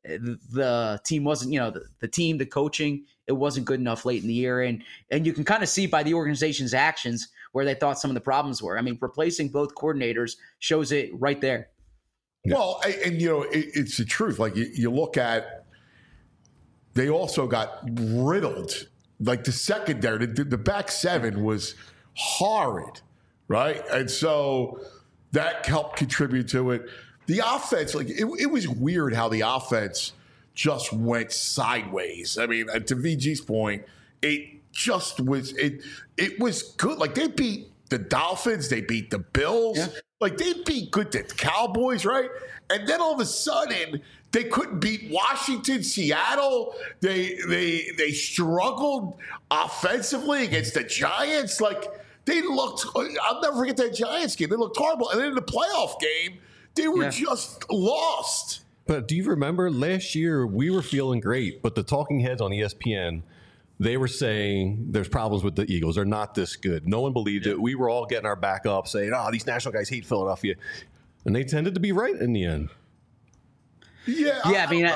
the team wasn't, the team, the coaching, it wasn't good enough late in the year. And you can kind of see by the organization's actions where they thought some of the problems were. I mean, replacing both coordinators shows it right there. Yeah. Well, and it's the truth. Like you look at, they also got riddled. Like the secondary, the back seven was horrid, right? And so that helped contribute to it. The offense, like it was weird how the offense just went sideways. I mean, to VG's point, it just was it was good. Like they beat the Dolphins, they beat the Bills, like they beat the Cowboys, right? And then all of a sudden they couldn't beat Washington, Seattle. They struggled offensively against the Giants. Like they looked. I'll never forget that Giants game. They looked horrible, and then in the playoff game, they were just lost. But do you remember last year we were feeling great, but the talking heads on ESPN, they were saying there's problems with the Eagles. They're not this good. No one believed it. We were all getting our back up saying, these national guys hate Philadelphia. And they tended to be right in the end. Yeah. I mean,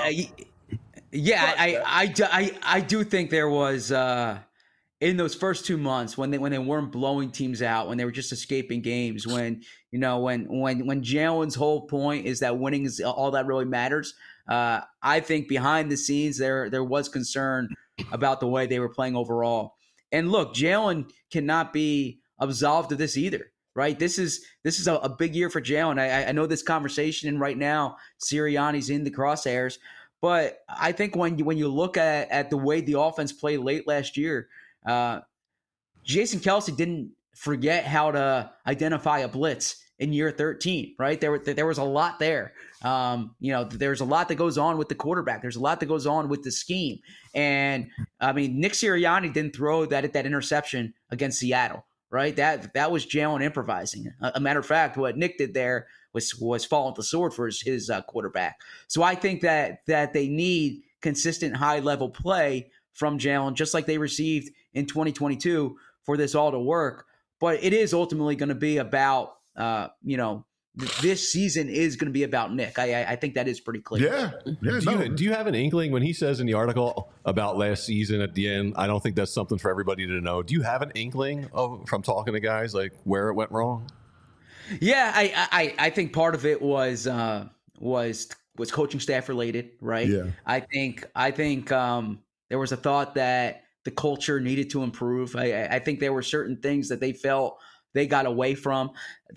I do think there was in those first 2 months when they weren't blowing teams out, when they were just escaping games, when Jalen's whole point is that winning is all that really matters. I think behind the scenes there was concern about the way they were playing overall. And look, Jalen cannot be absolved of this either, right? This is a big year for Jalen. I know this conversation, and right now Sirianni's in the crosshairs, but I think when you look at the way the offense played late last year, Jason Kelce didn't forget how to identify a blitz in year 13, right? There was a lot there. There's a lot that goes on with the quarterback. There's a lot that goes on with the scheme. And I mean, Nick Sirianni didn't throw that interception against Seattle, right? That was Jalen improvising. A matter of fact, what Nick did there was fall with the sword for his quarterback. So I think that they need consistent high level play from Jalen, just like they received in 2022 for this all to work. But it is ultimately going to be about, this season is going to be about Nick. I think that is pretty clear. Do you have an inkling when he says in the article about last season at the end, I don't think that's something for everybody to know. Do you have an inkling from talking to guys like where it went wrong? Yeah, I think part of it was coaching staff related, right? Yeah. I think there was a thought that the culture needed to improve. I think there were certain things that they felt they got away from.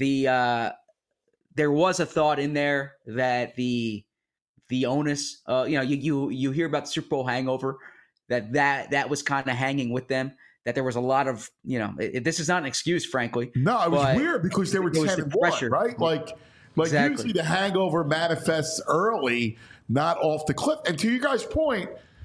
There was a thought in there that the onus, you hear about the Super Bowl hangover, that was kind of hanging with them. That there was a lot of, this is not an excuse, frankly. No, it was weird because they were 10-1, right? Like exactly. Usually the hangover manifests early, not off the cliff. And to you guys' point,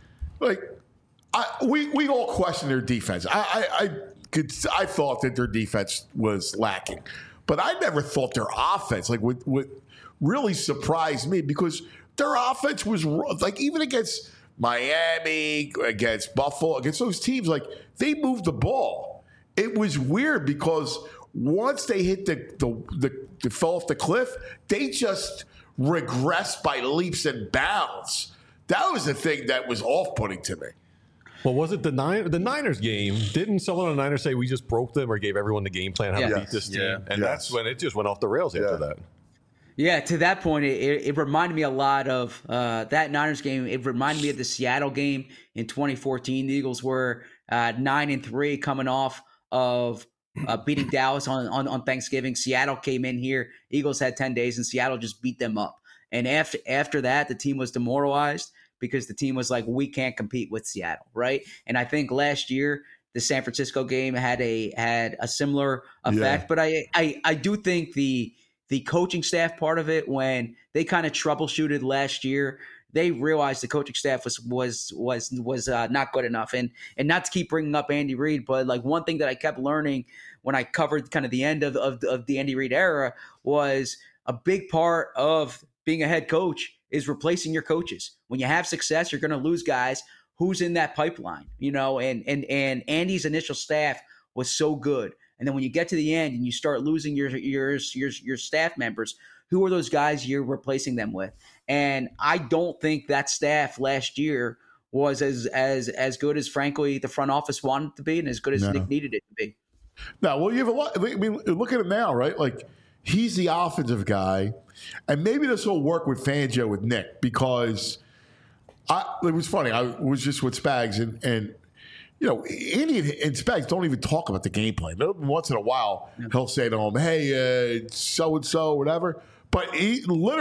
we all question their defense. I thought that their defense was lacking, but I never thought their offense, what really surprised me, because their offense was even against Miami, against Buffalo, against those teams, they moved the ball. It was weird because once they hit the fell off the cliff, they just regressed by leaps and bounds. That was the thing that was off-putting to me. Well, was it the Niners game? Didn't someone on the Niners say we just broke them or gave everyone the game plan how to beat this team? Yeah. And that's when it just went off the rails after that. Yeah, to that point, it reminded me a lot of that Niners game. It reminded me of the Seattle game in 2014. The Eagles were 9-3 coming off of beating Dallas on Thanksgiving. Seattle came in here. Eagles had 10 days, and Seattle just beat them up. And after that, the team was demoralized because the team was like, we can't compete with Seattle, right? And I think last year the San Francisco game had a similar effect. Yeah. But I do think the coaching staff part of it, when they kind of troubleshooted last year, they realized the coaching staff was not good enough. And not to keep bringing up Andy Reid, but one thing that I kept learning when I covered kind of the end of the Andy Reid era was a big part of being a head coach is replacing your coaches. When you have success, you're going to lose guys. Who's in that pipeline? And Andy's initial staff was so good. And then when you get to the end and you start losing your staff members, who are those guys you're replacing them with? And I don't think that staff last year was as good as, frankly, the front office wanted it to be and as good as Nick needed it to be. No, well, you have a lot. I mean, look at him now, right? Like, he's the offensive guy. And maybe this will work with Fangio with Nick, because it was funny. I was just with Spags, and you know, Andy and Spags don't even talk about the game plan. Once in a while, he'll say to him, hey, so-and-so, whatever. But he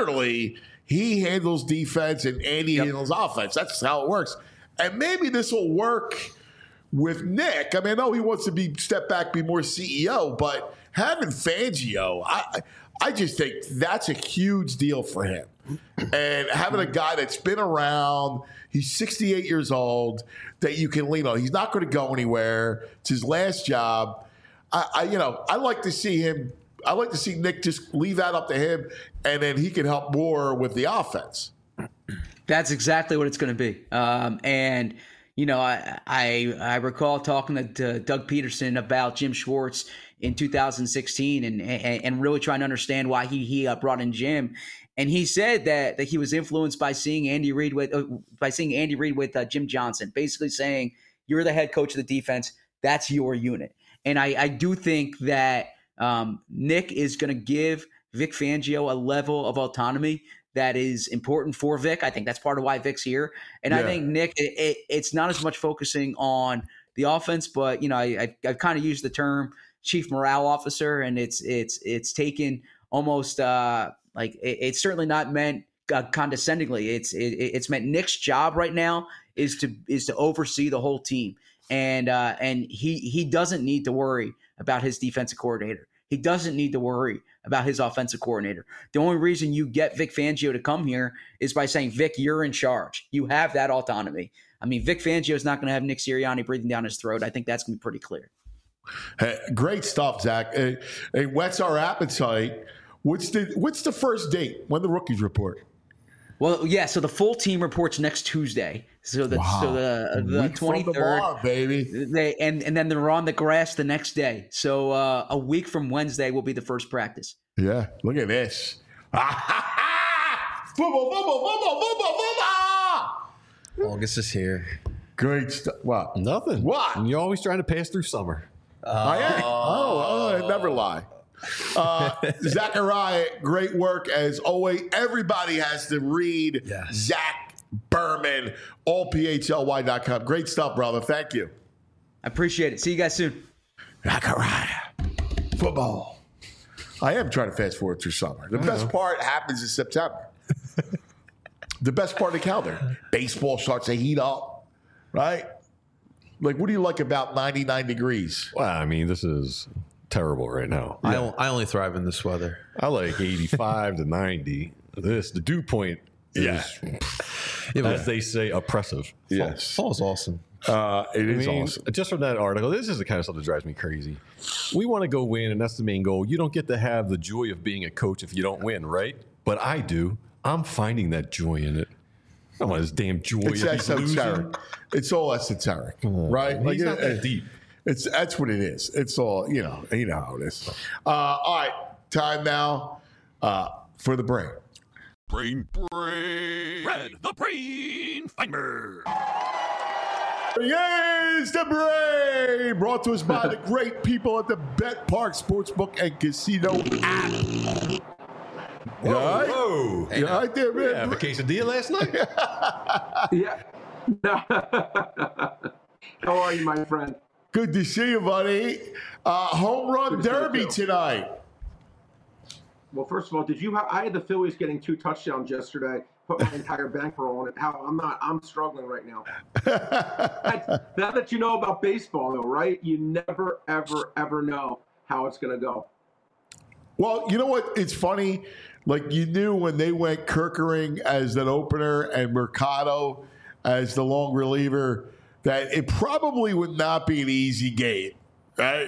handles defense and Andy handles offense. That's how it works. And maybe this will work with Nick. I mean, I know he wants to step back, be more CEO, but having Fangio, I just think that's a huge deal for him. And having a guy that's been around, he's 68 years old, that you can lean on. He's not going to go anywhere. It's his last job. I like to see him. I like to see Nick just leave that up to him, and then he can help more with the offense. That's exactly what it's going to be. And you know, I recall talking to Doug Peterson about Jim Schwartz in 2016, and really trying to understand why he brought in Jim. And he said that he was influenced by seeing Andy Reid with Jim Johnson, basically saying, you're the head coach of the defense. That's your unit. And I do think that Nick is going to give Vic Fangio a level of autonomy that is important for Vic. I think that's part of why Vic's here. And I think Nick, it's not as much focusing on the offense, but you know, I've kind of used the term chief morale officer, and it's taken almost like it's certainly not meant condescendingly. It's meant Nick's job right now is to oversee the whole team, and he doesn't need to worry about his defensive coordinator. He doesn't need to worry about his offensive coordinator. The only reason you get Vic Fangio to come here is by saying, Vic, you're in charge. You have that autonomy. I mean, Vic Fangio is not going to have Nick Sirianni breathing down his throat. I think that's going to be pretty clear. Hey, great stuff, Zach. It whets our appetite. What's the first date? When the rookies report? Well, yeah. So the full team reports next Tuesday. So the 23rd, baby. And then they're on the grass the next day. So a week from Wednesday will be the first practice. Yeah. Look at this. Football, football, football, football, football. August is here. Great stuff. What? Nothing. What? And you're always trying to pass through summer. I am. I never lie. Zachariah, great work as always. Everybody has to read Zach Berman, allphly.com. Great stuff, brother. Thank you. I appreciate it. See you guys soon. Zachariah, football. I am trying to fast forward through summer. The best part happens in September. The best part of the calendar. Baseball starts to heat up, right? Like, what do you like about 99 degrees? Well, I mean, this is terrible right now. I only thrive in this weather. I like 85 to 90. The dew point is, as they say, oppressive. Yes. Fall's awesome. It is awesome. Just from that article, this is the kind of stuff that drives me crazy. We want to go win, and that's the main goal. You don't get to have the joy of being a coach if you don't win, right? But I do. I'm finding that joy in it. I don't want this damn joy. It's esoteric. It's all esoteric, right? Like, it's not that deep. That's what it is. It's all, you know how it is. All right, time now for the brain. Brain. Red, the brain finder. Yes, the brain, brought to us by the great people at the Bet Park Sportsbook and Casino app. Whoa. Hey, right there, man. Yeah, have a quesadilla last night? Yeah. How are you, my friend? Good to see you, buddy. Home run derby tonight. Well, first of all, I had the Phillies getting 2 touchdowns yesterday. Put my entire bankroll on it. I'm struggling right now. Now that you know about baseball, though, right? You never, ever, ever know how it's going to go. Well, you know what? It's funny. Like, you knew when they went Kerkering as an opener and Mercado as the long reliever that it probably would not be an easy game, right?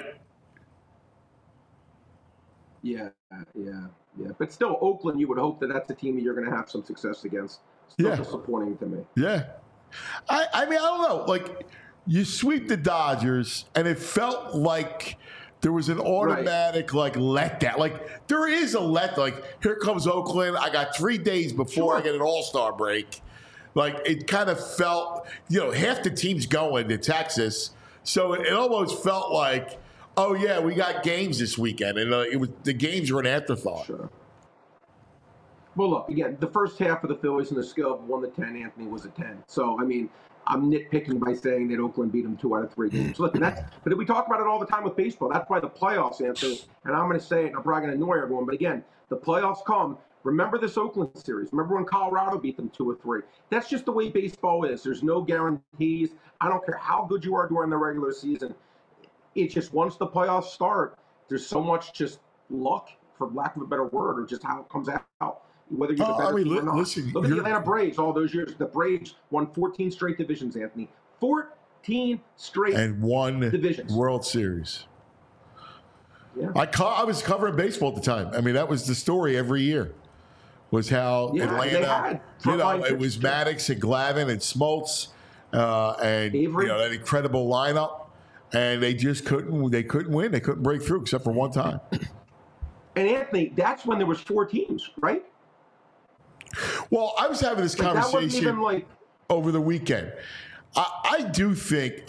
Yeah. But still, Oakland, you would hope that that's a team that you're going to have some success against. Still disappointing to me. Yeah. I mean, I don't know. Like, you sweep the Dodgers, and it felt like there was an automatic letdown. Like there is a like here comes Oakland. I got 3 days before I get an All-Star break. Like it kind of felt, half the team's going to Texas, so it almost felt like, oh yeah, we got games this weekend, and the games were an afterthought. Sure. Well, look, again, the first half of the Phillies in the scale of 1 to 10, Anthony, was a 10. So, I mean, I'm nitpicking by saying that Oakland beat them 2 out of 3 games. Look, but we talk about it all the time with baseball. That's why the playoffs, Anthony, and I'm going to say it, and I'm probably going to annoy everyone, but again, the playoffs come. Remember this Oakland series. Remember when Colorado beat them 2 or 3. That's just the way baseball is. There's no guarantees. I don't care how good you are during the regular season. It's just once the playoffs start, there's so much just luck, for lack of a better word, or just how it comes out. Whether you're the better team or not. Listen, look at the Atlanta Braves all those years. The Braves won 14 straight divisions, Anthony. 14 straight and won divisions. World Series. Yeah. I was covering baseball at the time. I mean, that was the story every year. Was how Atlanta, it was Maddox and Glavine and Smoltz and Avery. That incredible lineup, and they just couldn't. They couldn't win. They couldn't break through except for one time. And Anthony, that's when there was 4 teams, right? Well, I was having this conversation over the weekend. I do think,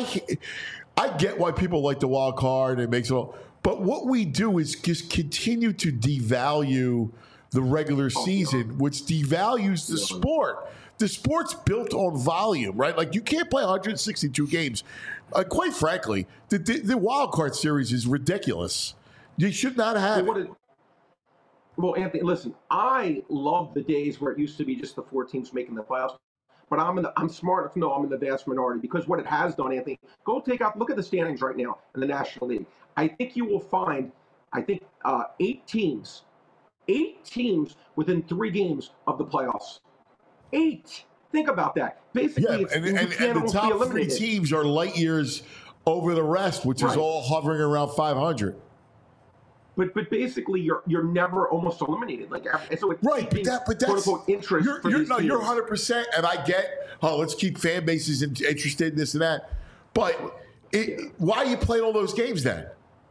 I get why people like the wild card. It makes it all, but what we do is just continue to devalue the regular season, which devalues the sport. The sport's built on volume, right? Like you can't play 162 games. Quite frankly, the wild card series is ridiculous. You should not have it. Well, Anthony, listen, I love the days where it used to be just the 4 teams making the playoffs. But I'm smart enough to know I'm in the vast minority, because what it has done, Anthony, look at the standings right now in the National League. I think you will find, 8 teams within 3 games of the playoffs. 8. Think about that. Basically, and the top 3 teams are light years over the rest, which is all hovering around 500. But basically, you're never almost eliminated. So it's but that's quote unquote interest. You're 100%, and I get. Let's keep fan bases interested in this and that. But why are you playing all those games then?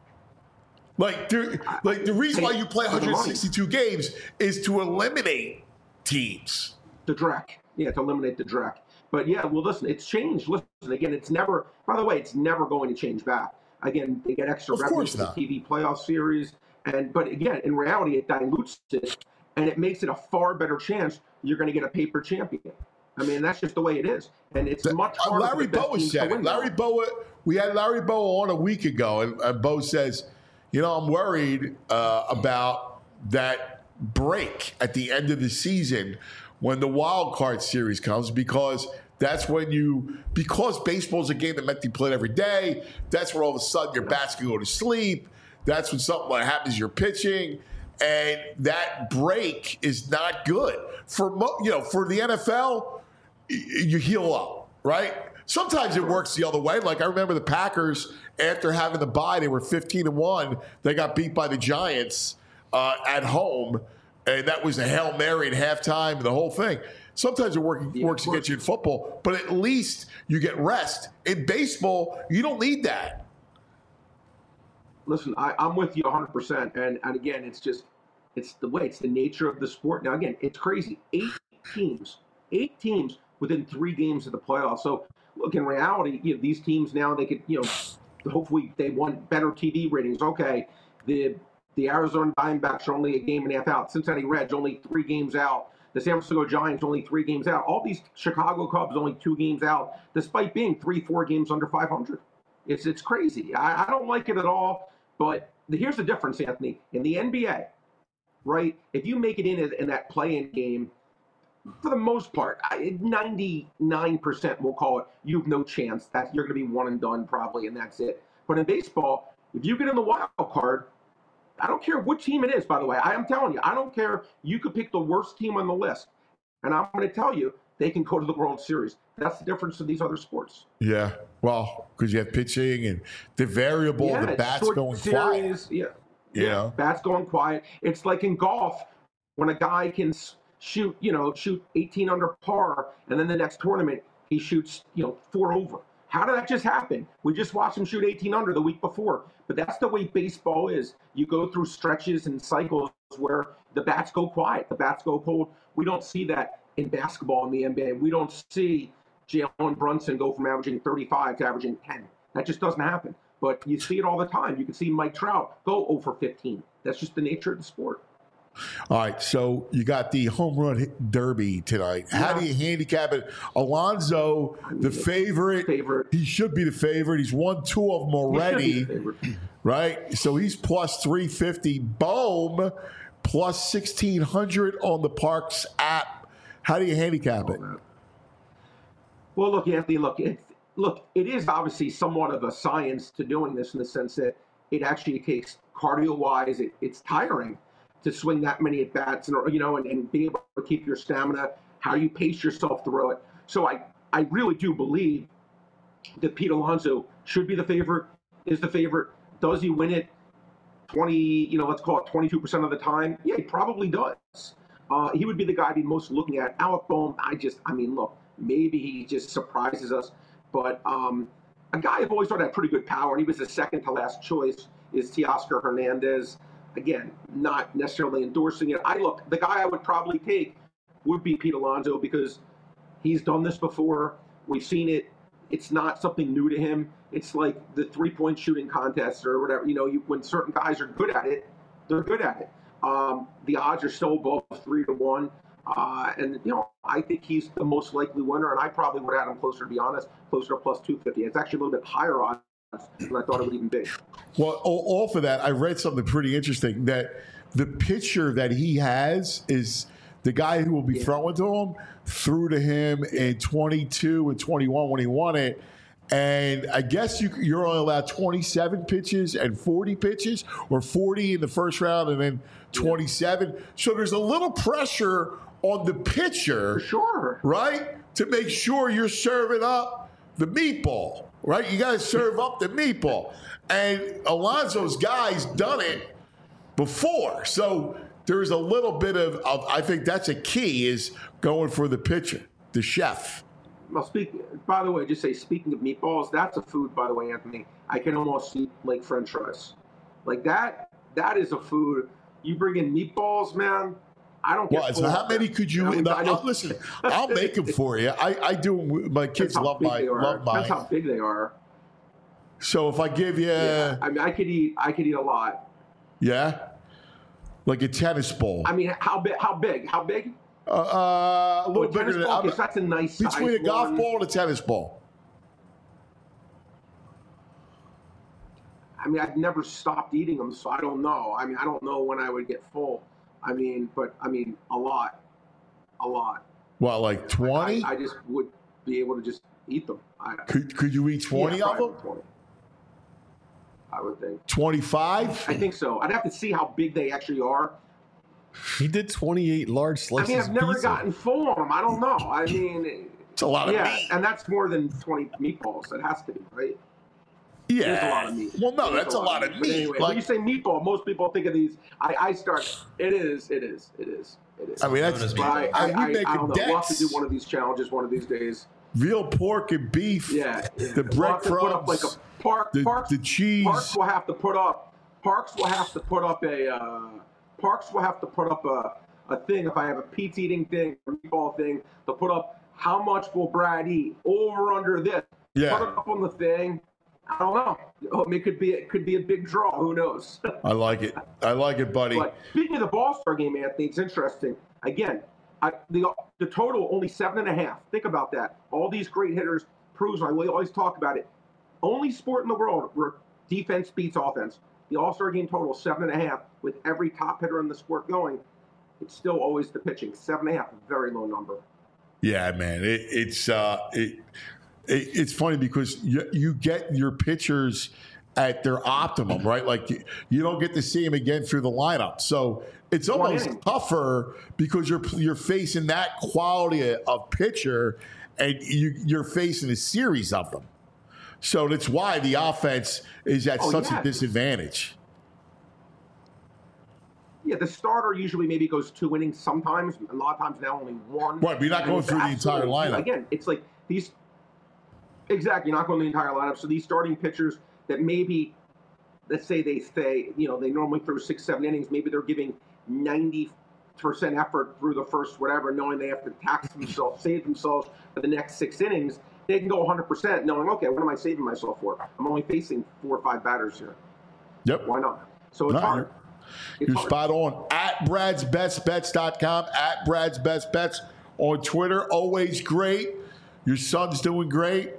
The reason why you play 162 games is to eliminate teams. The DREC, to eliminate the DREC. But listen, it's changed. Listen, again, it's never. By the way, it's never going to change back. Again, they get extra revenue for the TV playoff series. But again, in reality, it dilutes it, and it makes it a far better chance you're going to get a paper champion. I mean, that's just the way it is. And it's much harder. Larry Bowa said it. We had Larry Bowa on a week ago, and Bo says, I'm worried about that break at the end of the season when the wild card series comes, because that's when because baseball's a game that meant to be played every day, that's when all of a sudden your bats can go to sleep. That's when something happens, you're pitching, and that break is not good. For the NFL, you heal up, right? Sometimes it works the other way. Like I remember the Packers, after having the bye, they were 15-1. They got beat by the Giants at home, and that was a Hail Mary at halftime and the whole thing. Sometimes it works against you in football, but at least you get rest. In baseball, you don't need that. Listen, I'm with you 100%. And again, it's the nature of the sport. Now, again, it's crazy. 8 teams within 3 games of the playoffs. So, look, in reality, these teams now, they could, hopefully they want better TV ratings. Okay, the Arizona Diamondbacks are only a game and a half out. Cincinnati Reds only 3 games out. The San Francisco Giants only 3 games out. All these Chicago Cubs only 2 games out, despite being 3-4 games under 500. It's crazy. I don't like it at all. But here's the difference, Anthony. In the NBA, right, if you make it in that play-in game, for the most part, 99%, we'll call it, you have no chance. You're going to be one and done probably, and that's it. But in baseball, if you get in the wild card, I don't care what team it is, by the way. I am telling you, I don't care. You could pick the worst team on the list. And I'm going to tell you, they can go to the World Series. That's the difference to these other sports. Yeah. Well, because you have pitching and the variable, the bats going quiet. Yeah. Bats going quiet. It's like in golf when a guy can shoot 18 under par, and then the next tournament he shoots, 4 over. How did that just happen? We just watched him shoot 18 under the week before. But that's the way baseball is. You go through stretches and cycles where the bats go quiet, the bats go cold. We don't see that in basketball in the NBA. We don't see Jalen Brunson go from averaging 35 to averaging 10. That just doesn't happen. But you see it all the time. You can see Mike Trout go 0 for 15. That's just the nature of the sport. All right, so you got the home run derby tonight. How do you handicap it? Alonso, the favorite. He should be the favorite. He's won 2 of them already, right? So he's plus 350. Bohm, plus 1,600 on the Parx app. How do you handicap it? Well, look, Anthony, it is obviously somewhat of a science to doing this in the sense that it actually takes cardio-wise, it's tiring to swing that many at bats and being able to keep your stamina, how you pace yourself through it. So I really do believe that Pete Alonso should be the favorite, is the favorite. Does he win it let's call it 22% of the time? Yeah, he probably does. He would be the guy I'd be most looking at. Alec Bohm, look, maybe he just surprises us. But a guy I've always thought had pretty good power, and he was the second to last choice, is Teoscar Hernandez. Again, not necessarily endorsing it. The guy I would probably take would be Pete Alonso because he's done this before. We've seen it. It's not something new to him. It's like the 3-point shooting contest or whatever. When certain guys are good at it, they're good at it. The odds are still above 3-1. And I think he's the most likely winner, and I probably would have him closer, to be honest, closer to plus 250. It's actually a little bit higher odds than I thought it would even be. Well, off of that, I read something pretty interesting, that the pitcher that he has is the guy who will be throwing to him, threw to him in 22 and 21 when he won it. And I guess you're only allowed 27 pitches and 40 pitches, or 40 in the first round and then 27. So there's a little pressure on the pitcher, for sure, right, to make sure you're serving up the meatball, right? You got to serve up the meatball. And Alonso's guy's done it before. So there's a little bit of I think that's a key, is going for the pitcher, the chef. Well, by the way, speaking of meatballs, that's a food, by the way, Anthony, I can almost eat like French fries. Like that is a food. You bring in meatballs, man, I don't get so how many could you eat? Listen, I'll make them for you. I do. My kids love mine. That's how big they are. So if I give you... Yeah, I mean, I could eat a lot. Yeah? Like a tennis ball. I mean, how big? A little bigger than... Okay, so that's a nice size. Between a golf ball and a tennis ball. I mean, I've never stopped eating them, so I don't know. I mean, I don't know when I would get full. A lot. Well, like 20? I just would be able to just eat them. Could you eat 20 of them? 20. I would think. 25? I think so. I'd have to see how big they actually are. He did 28 large slices. I mean, I've never gotten full on them. I don't know. I mean, it's a lot of meat. And that's more than 20 meatballs. It has to be, right? Yeah. There's a lot of meat. Well, no, that's a lot of meat. Anyway, when you say meatball, most people think of these. I start. It is. I mean, that's. I don't know. We'll have to do one of these challenges one of these days. Real pork and beef. Yeah. The breadcrumbs. Put up like a the cheese. Parx will have to put up. A thing. If I have a pizza eating thing, a meatball thing, to put up how much will Brad eat over under this. Yeah. Put it up on the thing. I don't know. It could be a big draw. Who knows? I like it, buddy. But speaking of the All-Star game, Anthony, it's interesting. Again, the total only 7.5. Think about that. All these great hitters proves. We always talk about it. Only sport in the world where defense beats offense. The All-Star game total 7.5. With every top hitter in the sport going, it's still always the pitching. 7.5, a very low number. Yeah, man. It's funny because you get your pitchers at their optimum, right? Like you don't get to see them again through the lineup. So it's almost tougher because you're facing that quality of pitcher, and you're facing a series of them. So that's why the offense is at such a disadvantage. Yeah, the starter usually maybe goes 2 innings sometimes. A lot of times now only 1. Right, but you're not going through the entire lineup. Again, it's like these. Exactly, you're not going the entire lineup. So these starting pitchers that maybe let's say they normally throw 6-7 innings. Maybe they're giving 90% effort through the first whatever, knowing they have to tax themselves, save themselves for the next 6 innings. They can go 100% knowing, okay, what am I saving myself for? I'm only facing 4 or 5 batters here. Yep. Why not? So it's hard. You're spot on. At Brad'sBestBets.com, at Brad's Best Bets on Twitter. Always great. Your son's doing great.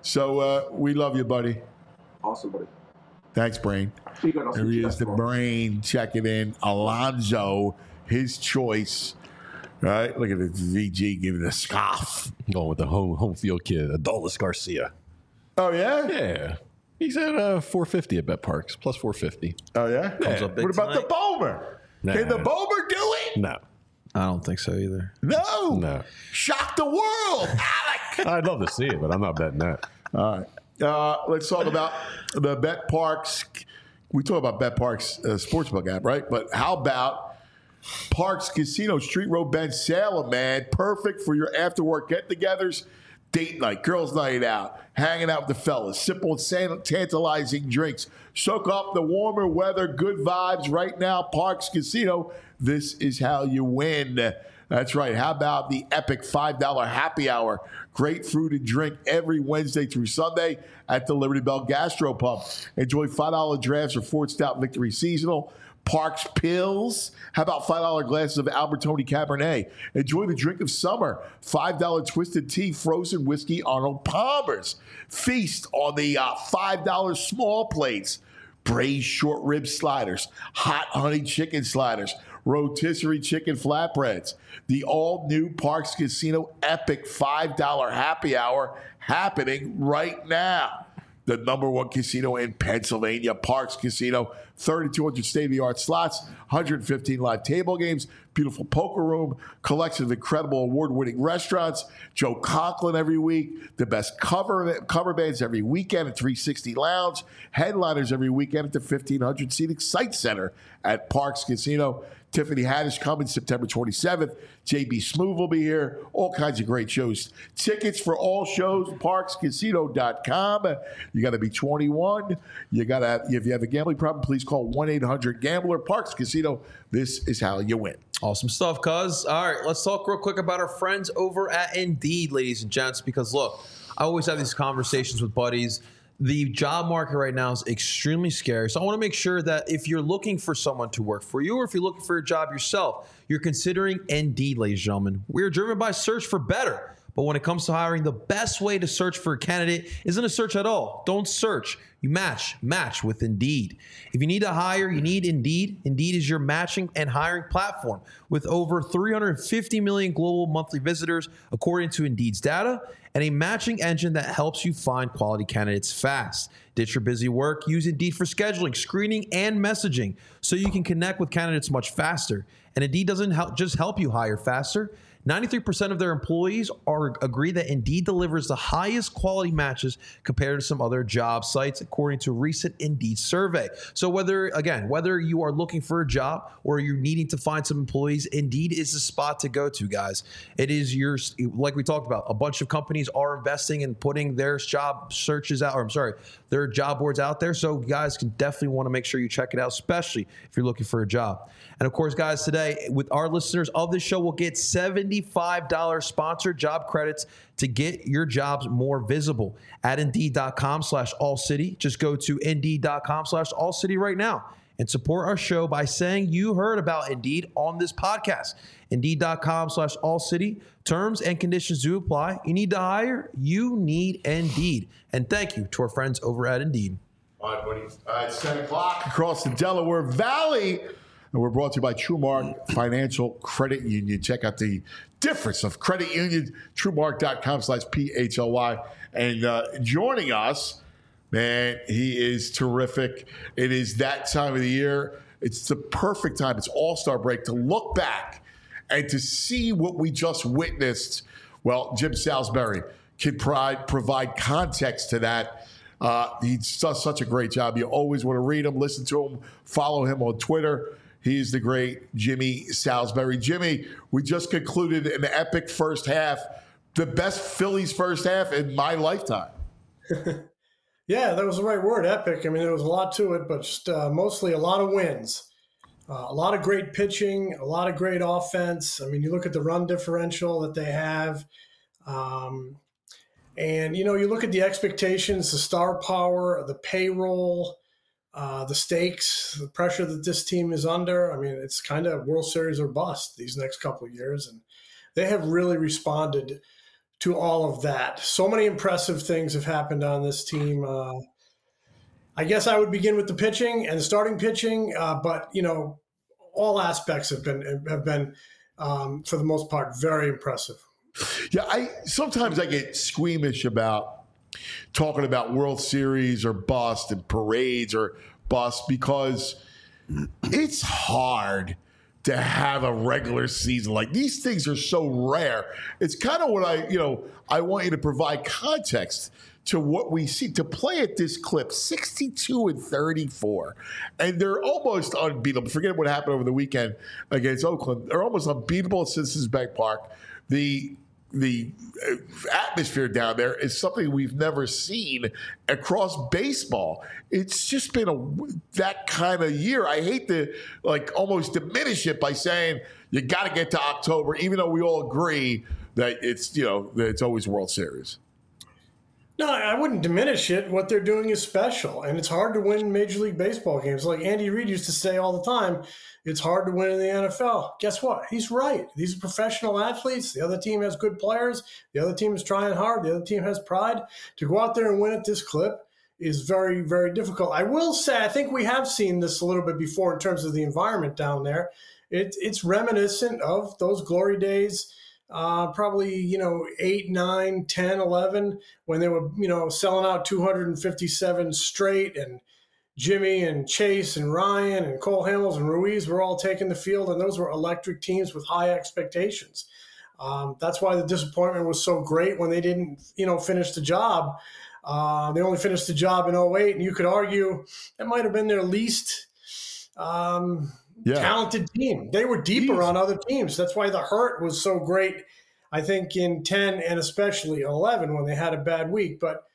So we love you, buddy. Awesome, buddy. Thanks, Brain. There he is, the Brain checking in. Alonso, his choice. All right, look at the VG giving a scoff. Going with the home field kid, Adolis Garcia. Oh, yeah? Yeah. He's at 450 at Bet Parks, plus 450. Oh, yeah? Comes up big What about tonight. the Bomer? Nah. Can the Bomer do it? No. I don't think so either. No. Shock the world, Alec. I'd love to see it, but I'm not betting that. All right. Let's talk about the Bet Parks. We talk about Bet Parks Sportsbook app, right? But how about Parks Casino, Street Road Bend, Salem, man? Perfect for your after-work get-togethers, date night, girls' night out, hanging out with the fellas, simple and tantalizing drinks. Soak up the warmer weather, good vibes right now. Parks Casino, this is how you win. That's right. How about the epic $5 happy hour? Great food and drink every Wednesday through Sunday at the Liberty Bell Gastropub. Enjoy $5 drafts or Ford Stout Victory Seasonal. Parks Pills. How about $5 glasses of Albertoni Cabernet? Enjoy the drink of summer. $5 Twisted Tea, frozen whiskey, Arnold Palmer's. Feast on the $5 small plates. Braised short rib sliders. Hot honey chicken sliders. Rotisserie chicken flatbreads. The all-new Parks Casino epic $5 happy hour happening right now. The number one casino in Pennsylvania, Parks Casino. 3,200 state-of-the-art slots, 115 live table games, beautiful poker room, collection of incredible award-winning restaurants, Joe Conklin every week, the best cover bands every weekend at 360 Lounge, headliners every weekend at the 1,500-seat Excite Center at Parks Casino. Tiffany Haddish coming September 27th. JB Smoove will be here. All kinds of great shows. Tickets for all shows, parkscasino.com. You got to be 21. You got to, if you have a gambling problem, please call 1-800-GAMBLER. Parks Casino, this is how you win. Awesome stuff, cuz. All right, let's talk real quick about our friends over at Indeed, ladies and gents, because look, I always have these conversations with buddies. The job market right now is extremely scary. So I want to make sure that if you're looking for someone to work for you or if you're looking for a job yourself, you're considering Indeed, ladies and gentlemen. We're driven by search for better. But when it comes to hiring, the best way to search for a candidate isn't a search at all. Don't search. You match with Indeed. If you need to hire, you need Indeed. Indeed is your matching and hiring platform with over 350 million global monthly visitors, according to Indeed's data, and a matching engine that helps you find quality candidates fast. Ditch your busy work. Use Indeed for scheduling, screening, and messaging so you can connect with candidates much faster. And Indeed doesn't just help you hire faster. 93% of their employees agree that Indeed delivers the highest quality matches compared to some other job sites, according to a recent Indeed survey. So whether you are looking for a job or you're needing to find some employees, Indeed is the spot to go to, guys. It is like we talked about, a bunch of companies are investing in putting their job their job boards out there. So you guys can definitely want to make sure you check it out, especially if you're looking for a job. And of course, guys, today with our listeners of this show, we'll get $75 sponsored job credits to get your jobs more visible at Indeed.com/AllCity. Just go to Indeed.com/AllCity right now and support our show by saying you heard about Indeed on this podcast. Indeed.com/AllCity. Terms and conditions do apply. You need to hire? You need Indeed. And thank you to our friends over at Indeed. All right, buddy. It's 10 o'clock across the Delaware Valley. And we're brought to you by TrueMark Financial Credit Union. Check out the difference of credit union, TrueMark.com/PHLY. And joining us, man, he is terrific. It is that time of the year. It's the perfect time. It's All-Star break to look back and to see what we just witnessed. Well, Jim Salisbury can provide context to that. He does such a great job. You always want to read him, listen to him, follow him on Twitter. He's the great Jimmy Salisbury. Jimmy, we just concluded an epic first half, the best Phillies first half in my lifetime. Yeah, that was the right word, epic. I mean, there was a lot to it, but just mostly a lot of wins. A lot of great pitching, a lot of great offense. I mean, you look at the run differential that they have. And, you look at the expectations, the star power, the payroll, the stakes, the pressure that this team is under. I mean, it's kind of World Series or bust these next couple of years. And they have really responded to all of that. So many impressive things have happened on this team. I guess I would begin with the pitching and the starting pitching, but all aspects have been for the most part very impressive. Yeah, sometimes I get squeamish about talking about World Series or bust and parades or bust because it's hard to have a regular season. Like, these things are so rare. It's kind of what I want you to provide context to what we see. To play at this clip, 62-34, and they're almost unbeatable. Forget what happened over the weekend against Oakland. They're almost unbeatable at Citizens Bank Park. The atmosphere down there is something we've never seen across baseball. It's just been that kind of year. I hate to almost diminish it by saying you got to get to October, even though we all agree that that it's always World Series. No, I wouldn't diminish it. What they're doing is special, and it's hard to win Major League Baseball games. Like Andy Reid used to say all the time, it's hard to win in the NFL. Guess what? He's right. These are professional athletes. The other team has good players. The other team is trying hard. The other team has pride. To go out there and win at this clip is very, very difficult. I will say, I think we have seen this a little bit before in terms of the environment down there. It's reminiscent of those glory days, probably, 8, 9, 10, 11, when they were, selling out 257 straight, and Jimmy and Chase and Ryan and Cole Hamels and Ruiz were all taking the field, and those were electric teams with high expectations. That's why the disappointment was so great when they didn't, finish the job. They only finished the job in 2008, and you could argue that might have been their least talented team. They were deeper on other teams. That's why the hurt was so great, I think, in 10 and especially 11 when they had a bad week. But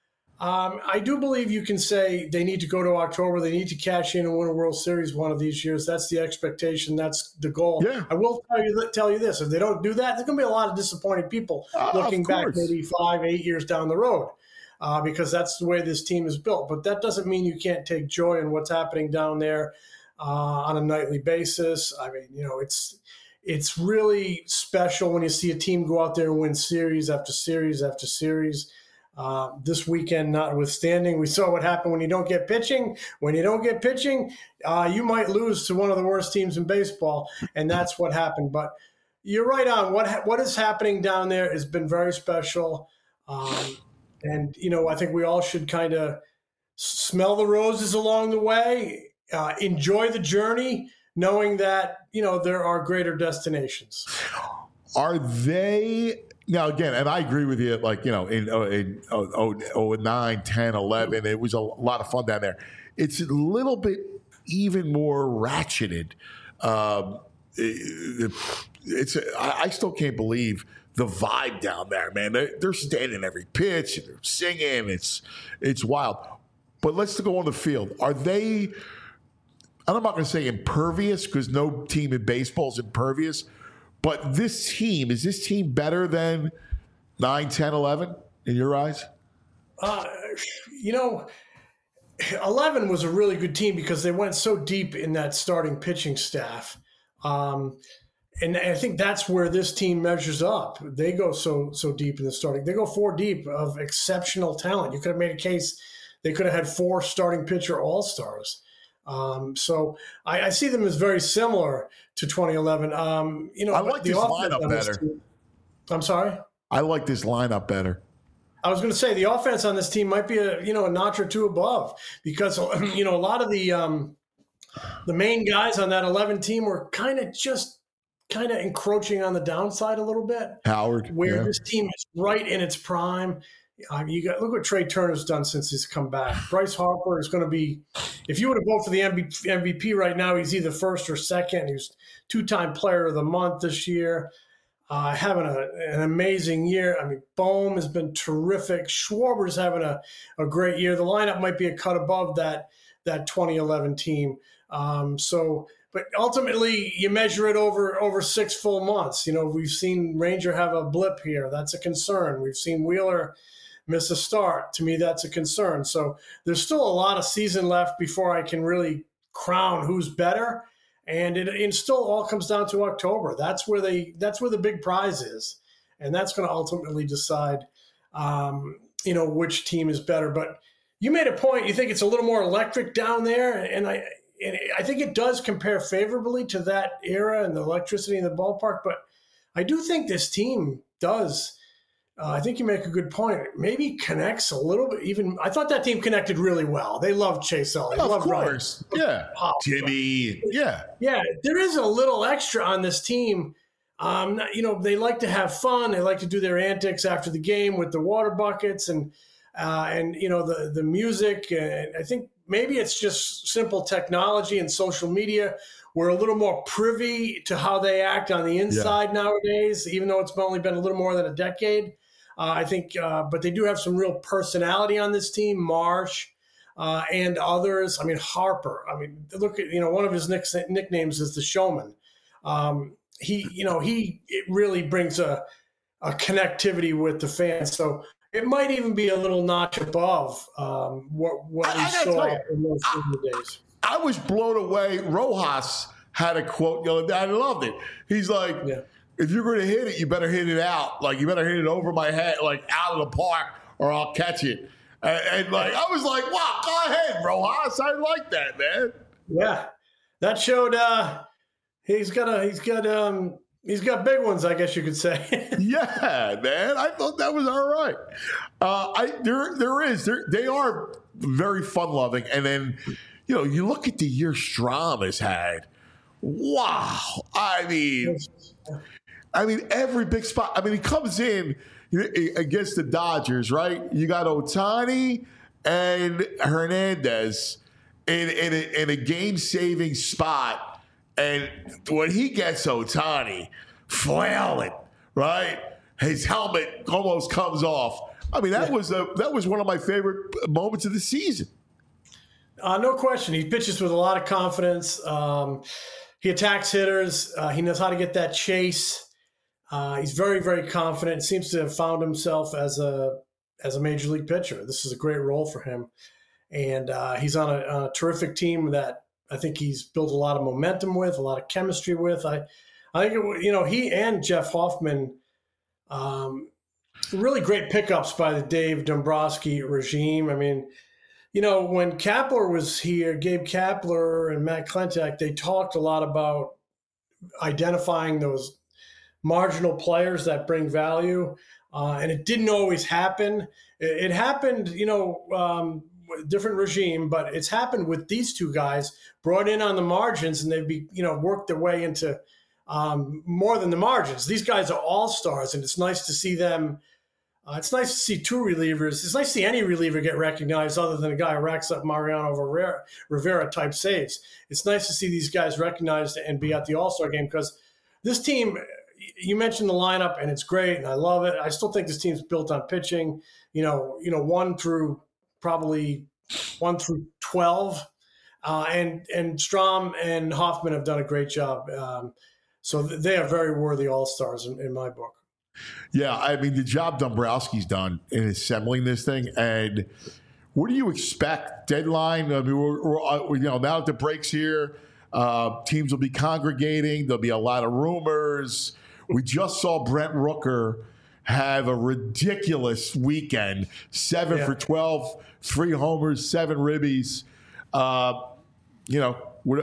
I do believe you can say they need to go to October. They need to cash in and win a World Series one of these years. That's the expectation. That's the goal. Yeah. I will tell you this. If they don't do that, there's going to be a lot of disappointed people looking back maybe 5, 8 years down the road because that's the way this team is built. But that doesn't mean you can't take joy in what's happening down there on a nightly basis. I mean, it's really special when you see a team go out there and win series after series after series. This weekend notwithstanding, we saw what happened when you don't get pitching. When you don't get pitching, you might lose to one of the worst teams in baseball, and that's what happened. But you're right on. What is happening down there has been very special. And, I think we all should kind of smell the roses along the way, enjoy the journey, knowing that, there are greater destinations. Are they... Now, again, and I agree with you, in 09, 10, 11, it was a lot of fun down there. It's a little bit even more ratcheted. I still can't believe the vibe down there, man. They're standing every pitch, they're singing. It's wild. But let's go on the field. Are they, I'm not going to say impervious because no team in baseball is impervious, but is this team better than 9, 10, 11 in your eyes? 11 was a really good team because they went so deep in that starting pitching staff. And I think that's where this team measures up. They go so deep in the starting. They go 4 deep of exceptional talent. You could have made a case they could have had 4 starting pitcher all-stars. So I see them as very similar to 2011. I like this lineup better. I'm sorry? I like this lineup better. I was going to say the offense on this team might be a notch or 2 above because, a lot of the main guys on that 11 team were kind of encroaching on the downside a little bit. Howard. Where this team is right in its prime. Look what Trey Turner's done since he's come back. Bryce Harper is going to be, if you were to vote for the MVP right now, he's either first or second. He was 2-time player of the month this year. having an amazing year. I mean, Bohm has been terrific. Schwarber's having a great year. The lineup might be a cut above that 2011 team. But ultimately, you measure it over 6 full months. We've seen Ranger have a blip here. That's a concern. We've seen Wheeler miss a start. To me, that's a concern. So there's still a lot of season left before I can really crown who's better. And it still all comes down to October. That's where the big prize is, and that's going to ultimately decide, which team is better. But you made a point. You think it's a little more electric down there, and I think it does compare favorably to that era and the electricity in the ballpark. But I do think this team does. I think you make a good point. Maybe connects a little bit. Even I thought that team connected really well. They love Chase Elliott. Of course, Ryan. Yeah. Jimmy, yeah. There is a little extra on this team. They like to have fun. They like to do their antics after the game with the water buckets and the music. And I think maybe it's just simple technology and social media. We're a little more privy to how they act on the inside nowadays, even though it's only been a little more than a decade. I think, but they do have some real personality on this team. Marsh and others. I mean, Harper. I mean, look at one of his nicknames is the Showman. It really brings a connectivity with the fans. So it might even be a little notch above what we saw in those days. I was blown away. Rojas had a quote the other day. I loved it. He's like, if you're going to hit it, you better hit it out. Like, you better hit it over my head, like out of the park, or I'll catch it. And I was like, wow, go ahead, Rojas. I like that, man. Yeah. That showed he's got big ones, I guess you could say. Yeah, man. I thought that was all right. They are very fun-loving. And then, you look at the year Strom has had. Wow. I mean, every big spot. I mean, he comes in against the Dodgers, right? You got Ohtani and Hernandez in a game-saving spot. And when he gets Ohtani flailing, right, his helmet almost comes off. I mean, that was one of my favorite moments of the season. No question. He pitches with a lot of confidence. He attacks hitters. He knows how to get that chase. He's very, very confident. Seems to have found himself as a major league pitcher. This is a great role for him. And he's on a terrific team that I think he's built a lot of momentum with, a lot of chemistry with. I think, he and Jeff Hoffman, really great pickups by the Dave Dombrowski regime. I mean, when Kapler was here, Gabe Kapler and Matt Klentak, they talked a lot about identifying those marginal players that bring value. And it didn't always happen. It happened, different regime, but it's happened with these two guys brought in on the margins, and they've worked their way into more than the margins. These guys are all-stars, and it's nice to see them. It's nice to see two relievers. It's nice to see any reliever get recognized other than a guy who racks up Mariano Rivera type saves. It's nice to see these guys recognized and be at the All-Star game, because this team, you mentioned the lineup, and it's great, and I love it. I still think this team's built on pitching, 1 through 12. And Strom and Hoffman have done a great job. So they are very worthy all-stars in my book. Yeah, I mean, the job Dombrowski's done in assembling this thing. And what do you expect? Deadline? I mean, we're now that the break's here, teams will be congregating. There'll be a lot of rumors. We just saw Brent Rooker have a ridiculous weekend, 7 for 12, 3 homers, 7 ribbies. It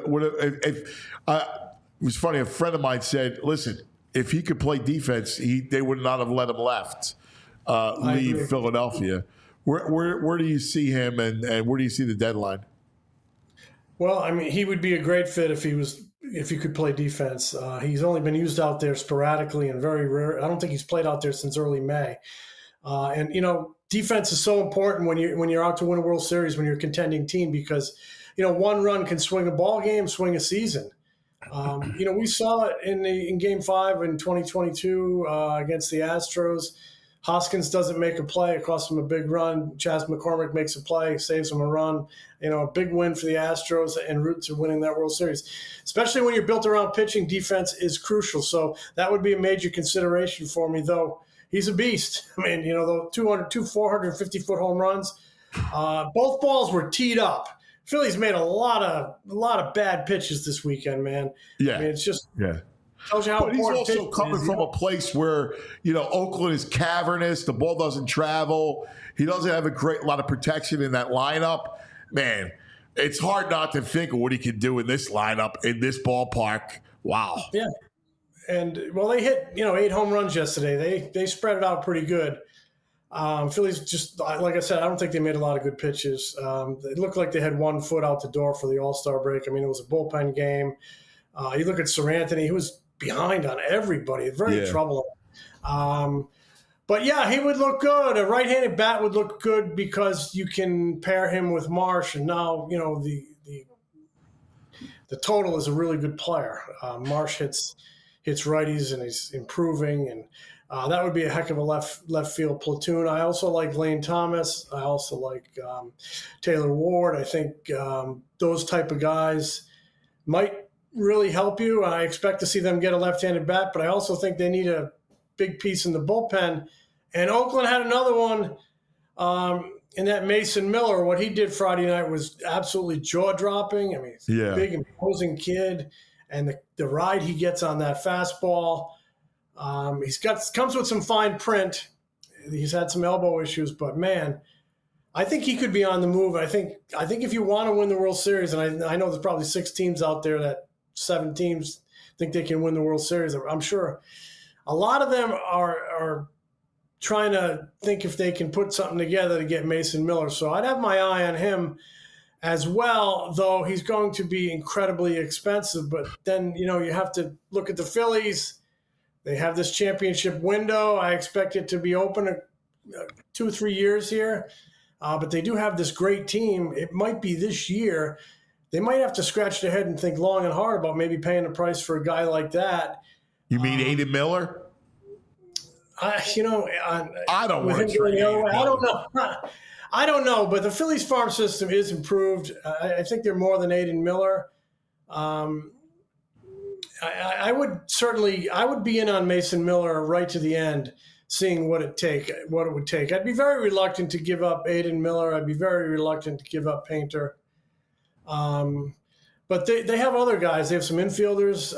was funny. A friend of mine said, "Listen, if he could play defense, they would not have let him leave Philadelphia." Where do you see him, and where do you see the deadline? Well, I mean, he would be a great fit if he could play defense. He's only been used out there sporadically and very rare. I don't think he's played out there since early May. Defense is so important when you're out to win a World Series, when you're a contending team, because one run can swing a ball game, swing a season. We saw it in Game 5 in 2022 against the Astros. Hoskins doesn't make a play. It costs him a big run. Chas McCormick makes a play, saves him a run. A big win for the Astros en route to winning that World Series. Especially when you're built around pitching, defense is crucial. So that would be a major consideration for me, though. He's a beast. I mean, the 450-foot home runs. Both balls were teed up. Phillies made a lot of bad pitches this weekend, man. Yeah. I mean, it's just tells you how but important he's also coming from a place where, Oakland is cavernous. The ball doesn't travel. He doesn't have a lot of protection in that lineup. Man, it's hard not to think of what he can do in this lineup, in this ballpark. Wow. Yeah. And, they hit, 8 home runs yesterday. They spread it out pretty good. Phillies just, like I said, I don't think they made a lot of good pitches. It looked like they had 1 foot out the door for the All-Star break. I mean, it was a bullpen game. You look at Seranthony, he was behind on everybody. Very troubling. But, he would look good. A right-handed bat would look good because you can pair him with Marsh. And now, the total is a really good player. Marsh hits righties and he's improving. And that would be a heck of a left field platoon. I also like Lane Thomas. I also like Taylor Ward. I think those type of guys might really help you. I expect to see them get a left-handed bat, but I also think they need a big piece in the bullpen. And Oakland had another one in that Mason Miller. What he did Friday night was absolutely jaw-dropping. I mean, he's a big, imposing kid, and the ride he gets on that fastball. Comes with some fine print. He's had some elbow issues, but man, I think he could be on the move. I think if you want to win the World Series, and I know there's probably 6 teams out there that 7 teams think they can win the World Series. I'm sure a lot of them are trying to think if they can put something together to get Mason Miller. So I'd have my eye on him as well, though he's going to be incredibly expensive. But then, you have to look at the Phillies. They have this championship window. I expect it to be open 2 or 3 years here. But they do have this great team. It might be this year. They might have to scratch their head and think long and hard about maybe paying a price for a guy like that. You mean Aiden Miller? I don't want to trade Aiden Miller. I don't know. I don't know, but the Phillies farm system is improved. I think they're more than Aiden Miller. I would be in on Mason Miller right to the end, seeing what it would take. I'd be very reluctant to give up Aiden Miller. I'd be very reluctant to give up Painter. But they have other guys. They have some infielders.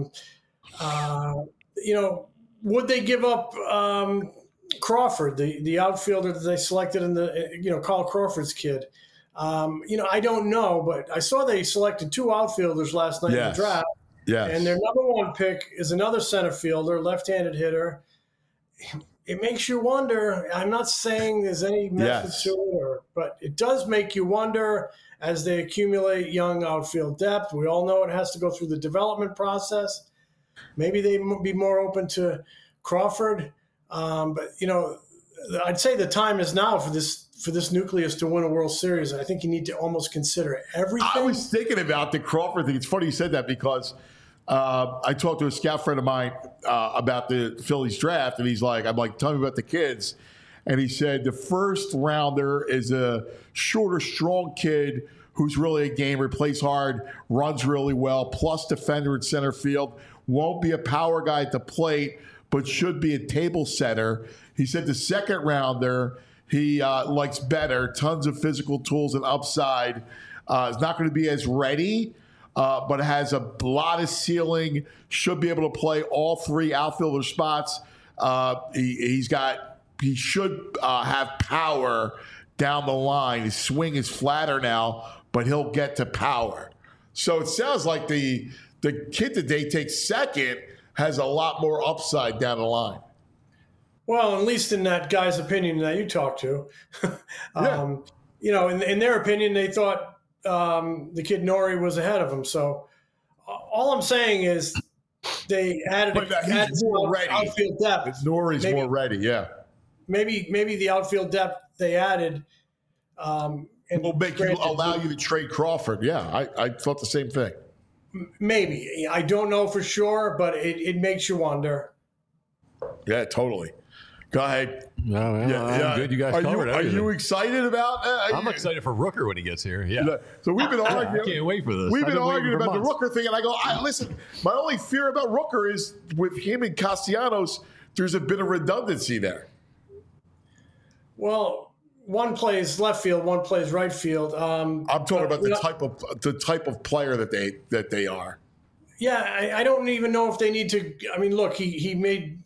Would they give up Crawford, the outfielder that they selected in the Carl Crawford's kid? I don't know, but I saw they selected 2 outfielders last night in the draft. Yes. And their number 1 pick is another center fielder, left-handed hitter. It makes you wonder. I'm not saying there's any method to it, but it does make you wonder as they accumulate young outfield depth. We all know it has to go through the development process. Maybe they would be more open to Crawford. But, I'd say the time is now for this nucleus to win a World Series. I think you need to almost consider everything. I was thinking about the Crawford thing. It's funny you said that because I talked to a scout friend of mine about the Phillies draft, and he's like, I'm like, tell me about the kids. And he said the first rounder is a shorter, strong kid who's really a gamer, plays hard, runs really well, plus defender in center field, won't be a power guy at the plate, but should be a table setter. He said the second rounder, he likes better, tons of physical tools and upside. Is not going to be as ready, but has a lot of ceiling, should be able to play all 3 outfielder spots. He should have power down the line. His swing is flatter now, but he'll get to power. So it sounds like the kid that they take second has a lot more upside down the line. Well, at least in that guy's opinion that you talked to. In their opinion, they thought the kid Nori was ahead of him. So all I'm saying is they added more ready. Outfield depth. Nori's more ready, yeah. Maybe the outfield depth they added will allow you to trade Crawford. Yeah, I thought the same thing. Maybe. I don't know for sure, but it makes you wonder. Yeah, totally. Go ahead. No, I'm good. You guys covered Are everything. you excited about I'm excited for Rooker when he gets here. Yeah. So we've been arguing. I can't wait for this. We've I've been waiting arguing for about the months. Rooker thing, and I go, listen, my only fear about Rooker is with him and Castellanos, there's a bit of redundancy there. Well, one plays left field, one plays right field. I'm talking about the type of player that they are. Yeah, I don't even know if they need to. I mean, look, he made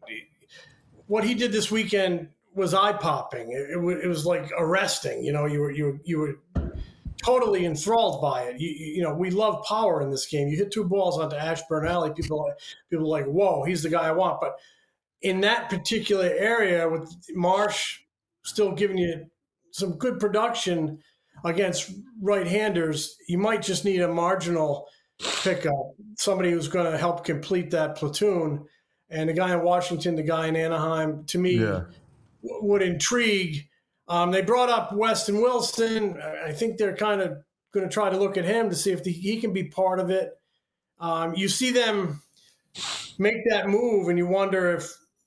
what he did this weekend was eye popping. It was like arresting. You know, you were totally enthralled by it. You know, we love power in this game. You hit 2 balls onto Ashburn Alley, people are like, whoa, he's the guy I want. But in that particular area, with Marsh still giving you some good production against right-handers, you might just need a marginal pickup, somebody who's going to help complete that platoon. And the guy in Washington, the guy in Anaheim, to me, would intrigue. They brought up Weston Wilson. I think they're kind of going to try to look at him to see if he can be part of it. You see them make that move, and you wonder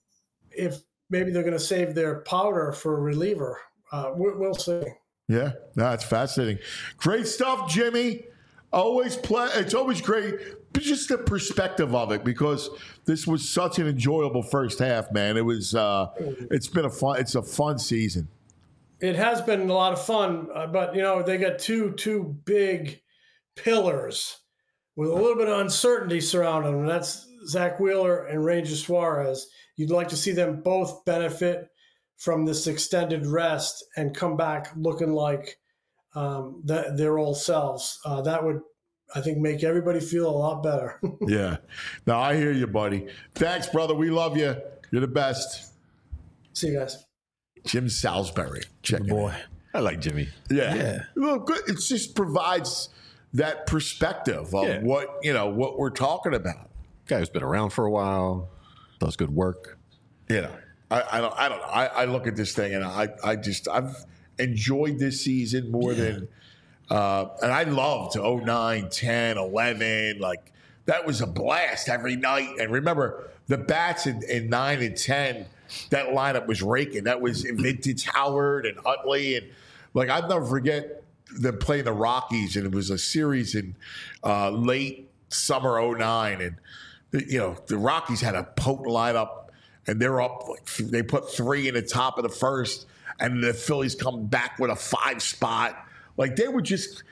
if maybe they're going to save their powder for a reliever. We'll see. Yeah, that's fascinating. Great stuff, Jimmy. It's always great, but just the perspective of it, because this was such an enjoyable first half, man. It was. It's a fun season. It has been a lot of fun, but they got two big pillars with a little bit of uncertainty surrounding them. That's Zach Wheeler and Ranger Suarez. You'd like to see them both benefit from this extended rest and come back looking like their old selves. That would, I think, make everybody feel a lot better. Yeah. No, I hear you, buddy. Thanks, brother. We love you. You're the best. See you guys. Jim Salisbury. Check it boy. out. I like Jimmy. Yeah. Well, good. It just provides that perspective of what we're talking about. Guy who's been around for a while, does good work. I don't know. I look at this thing and I've enjoyed this season more than and I loved 09, 10, 11. Like, that was a blast every night. And remember, the bats in 9 and 10, that lineup was raking. That was vintage Howard and Utley. And, like, I'll never forget them playing the Rockies, and it was a series in late summer 09. And, the Rockies had a potent lineup, and they're up. They put 3 in the top of the first, and the Phillies come back with a 5 spot. Like, they would just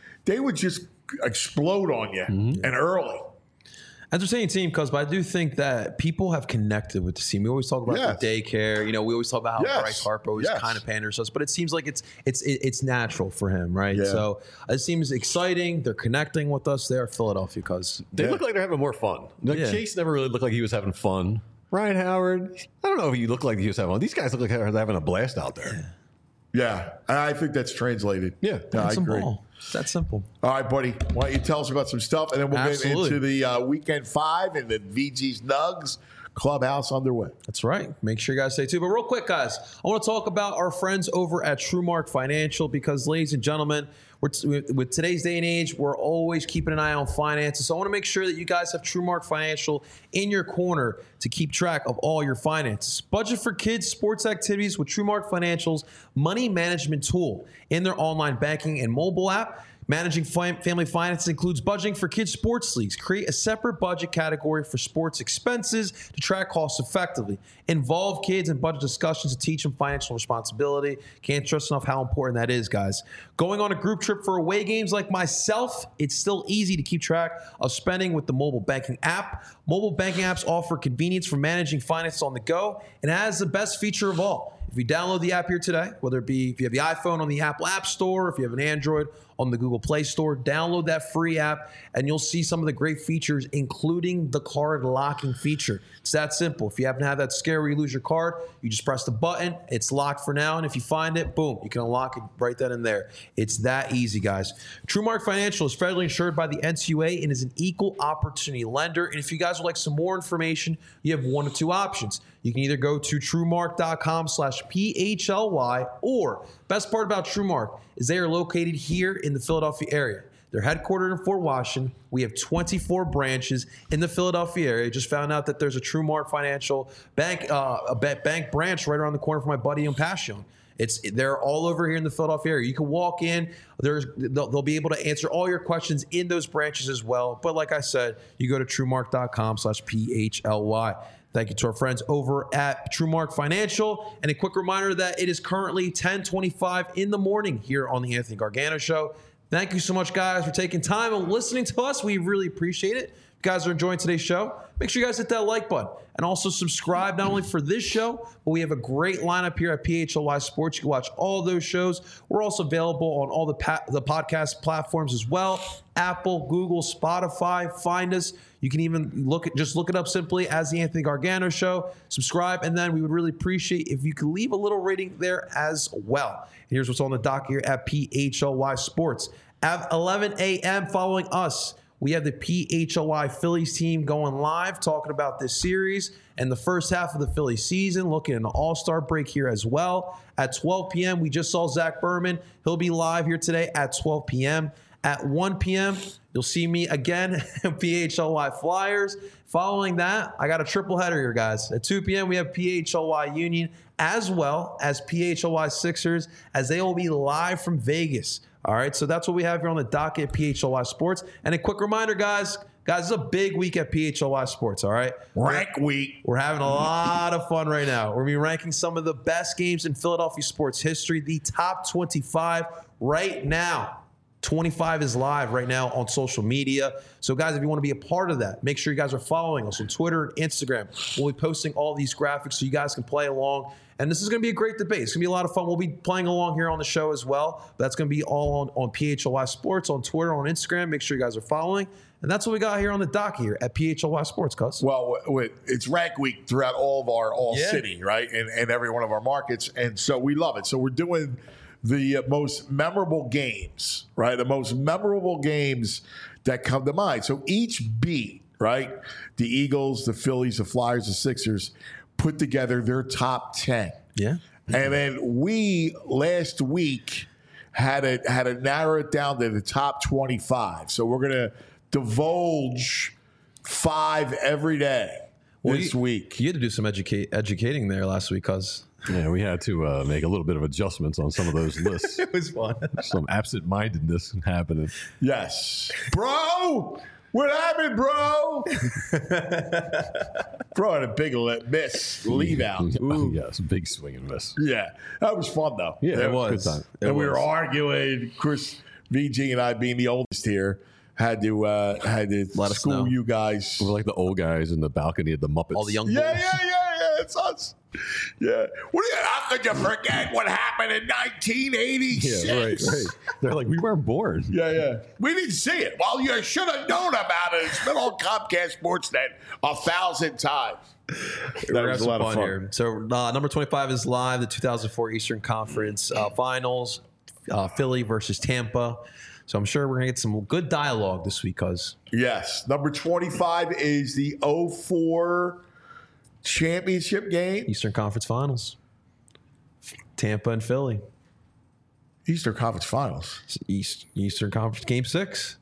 explode on you and early. Entertaining team, because I do think that people have connected with the team. We always talk about the daycare. We always talk about how Bryce Harper always kind of panders us, but it seems like it's natural for him, right? Yeah. So it seems exciting. They're connecting with us. They are Philadelphia, because they look like they're having more fun. Chase never really looked like he was having fun. Ryan Howard, I don't know if he looked like he was having fun. These guys look like they're having a blast out there. Yeah, I think that's translated. Yeah, I agree. It's that simple. All right, buddy. Why don't you tell us about some stuff, and then we'll get into the Weekend 5 and the VG's Nugs Clubhouse underway. That's right. Make sure you guys stay tuned. But real quick, guys, I want to talk about our friends over at TrueMark Financial, because, ladies and gentlemen, with today's day and age, we're always keeping an eye on finances. So I want to make sure that you guys have TrueMark Financial in your corner to keep track of all your finances. Budget for kids' sports activities with TrueMark Financial's money management tool in their online banking and mobile app. Managing family finances includes budgeting for kids' sports leagues. Create a separate budget category for sports expenses to track costs effectively. Involve kids in budget discussions to teach them financial responsibility. Can't stress enough how important that is, guys. Going on a group trip for away games like myself, it's still easy to keep track of spending with the mobile banking app. Mobile banking apps offer convenience for managing finances on the go, and it has the best feature of all. If you download the app here today, whether it be if you have the iPhone on the Apple App Store, if you have an Android on the Google Play Store, download that free app and you'll see some of the great features, including the card locking feature. It's that simple. If you happen to have that scare where you lose your card, you just press the button. It's locked for now. And if you find it, boom, you can unlock it right then and there. It's that easy, guys. TrueMark Financial is federally insured by the NCUA and is an equal opportunity lender. And if you guys would like some more information, you have one of two options. You can either go to TrueMark.com/PHLY, or best part about TrueMark is they are located here in the Philadelphia area. They're headquartered in Fort Washington. We have 24 branches in the Philadelphia area. Just found out that there's a TrueMark Financial Bank, bank branch right around the corner from my buddy in Passion. They're all over here in the Philadelphia area. You can walk in. They'll be able to answer all your questions in those branches as well. But like I said, you go to TrueMark.com/PHLY. Thank you to our friends over at TrueMark Financial. And a quick reminder that it is currently 10:25 in the morning here on the Anthony Gargano Show. Thank you so much, guys, for taking time and listening to us. We really appreciate it. If you guys are enjoying today's show, make sure you guys hit that like button. And also subscribe not only for this show, but we have a great lineup here at PHLY Sports. You can watch all those shows. We're also available on all the podcast platforms as well. Apple, Google, Spotify. Find us. You can even look it up simply as the Anthony Gargano Show. Subscribe, and then we would really appreciate if you could leave a little rating there as well. And here's what's on the dock here at PHLY Sports. At 11 a.m. following us, we have the PHLY Phillies team going live, talking about this series and the first half of the Phillies season, looking at an all-star break here as well. At 12 p.m., we just saw Zach Berman. He'll be live here today at 12 p.m. At 1 p.m., you'll see me again, PHLY Flyers. Following that, I got a triple header here, guys. At 2 p.m., we have PHLY Union as well as PHLY Sixers, as they will be live from Vegas. All right, so that's what we have here on the docket at PHLY Sports. And a quick reminder, guys, it's a big week at PHLY Sports, all right? Rank week. We're having a lot of fun right now. We're going to be ranking some of the best games in Philadelphia sports history, the top 25 right now. 25 is live right now on social media. So, guys, if you want to be a part of that, make sure you guys are following us on Twitter and Instagram. We'll be posting all these graphics so you guys can play along. And this is going to be a great debate. It's going to be a lot of fun. We'll be playing along here on the show as well. But that's going to be all on PHLY Sports, on Twitter, on Instagram. Make sure you guys are following. And that's what we got here on the dock here at PHLY Sports, Cuz. Well, it's rank week throughout all of our city, right? And every one of our markets. And so we love it. So we're doing the most memorable games, right? The most memorable games that come to mind. So each beat, right? The Eagles, the Phillies, the Flyers, the Sixers put together their top 10. Yeah. And then we last week had to narrow it down to the top 25. So we're going to divulge 5 every day this week. You had to do some educating there last week, Cuz. Yeah, we had to make a little bit of adjustments on some of those lists. It was fun. Some absent-mindedness happening. Yes. Bro! What happened, bro? Bro had a big miss. Leave out. Yes, big swing and miss. Yeah. That was fun, though. Yeah, it was. Good time. And we were arguing. Chris, VG, and I, being the oldest here, had to Let us school know. you guys. We were like the old guys in the balcony of the Muppets. All the young Yeah, boys. it's us. Yeah. How could you forget what happened in 1986? Yeah, right. They're like, we weren't born. Yeah. We didn't see it. Well, you should have known about it. It's been on Comcast Sportsnet 1,000 times. We're having some fun here. So number 25 is live, the 2004 Eastern Conference Finals, Philly versus Tampa. So I'm sure we're going to get some good dialogue this week, Cuz. Yes. Number 25 is the 04 championship game. Eastern Conference Finals. Tampa and Philly. Eastern Conference Finals. Eastern Conference Game 6.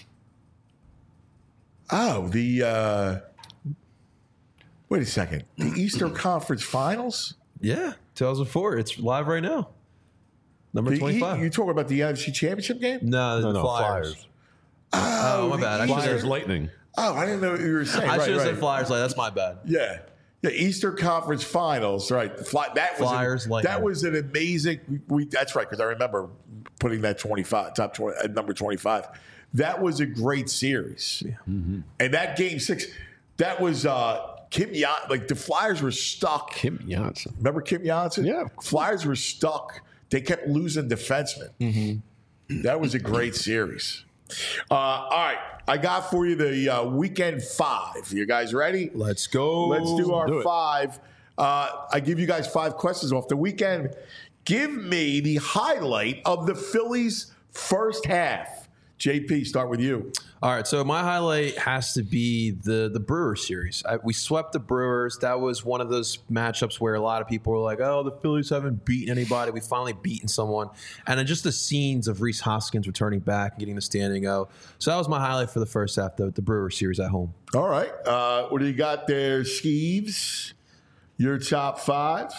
Oh, the wait a second. The Eastern Conference Finals? Yeah, 2004. It's live right now. Number 25. You talking about the NFC Championship game? No, the No, Flyers. Flyers. Oh, my bad. I Flyers Lightning. Oh, I didn't know what you were saying. should have right. said Flyers. That's my bad. Yeah. The Eastern Conference Finals, right? Flyers, Lightning. That was an amazing. That's right, because I remember putting that 25 top 20 at number 25. That was a great series, and that Game 6, that was Kim Janssen. Like the Flyers were stuck. Kim Janssen. Remember Kim Janssen? Yeah. Flyers were stuck. They kept losing defensemen. That was a great series. All right, I got for you the weekend 5. You guys ready? Let's go. Let's do our Do it. 5. I give you guys 5 questions off the weekend. Give me the highlight of the Phillies' first half. JP, start with you. All right, so my highlight has to be the Brewers series. We swept the Brewers. That was one of those matchups where a lot of people were like, "Oh, the Phillies haven't beaten anybody. We finally beaten someone." And then just the scenes of Rhys Hoskins returning back and getting the standing O. So that was my highlight for the first half, the Brewers series at home. All right, what do you got there, Skeeves? Your top 5?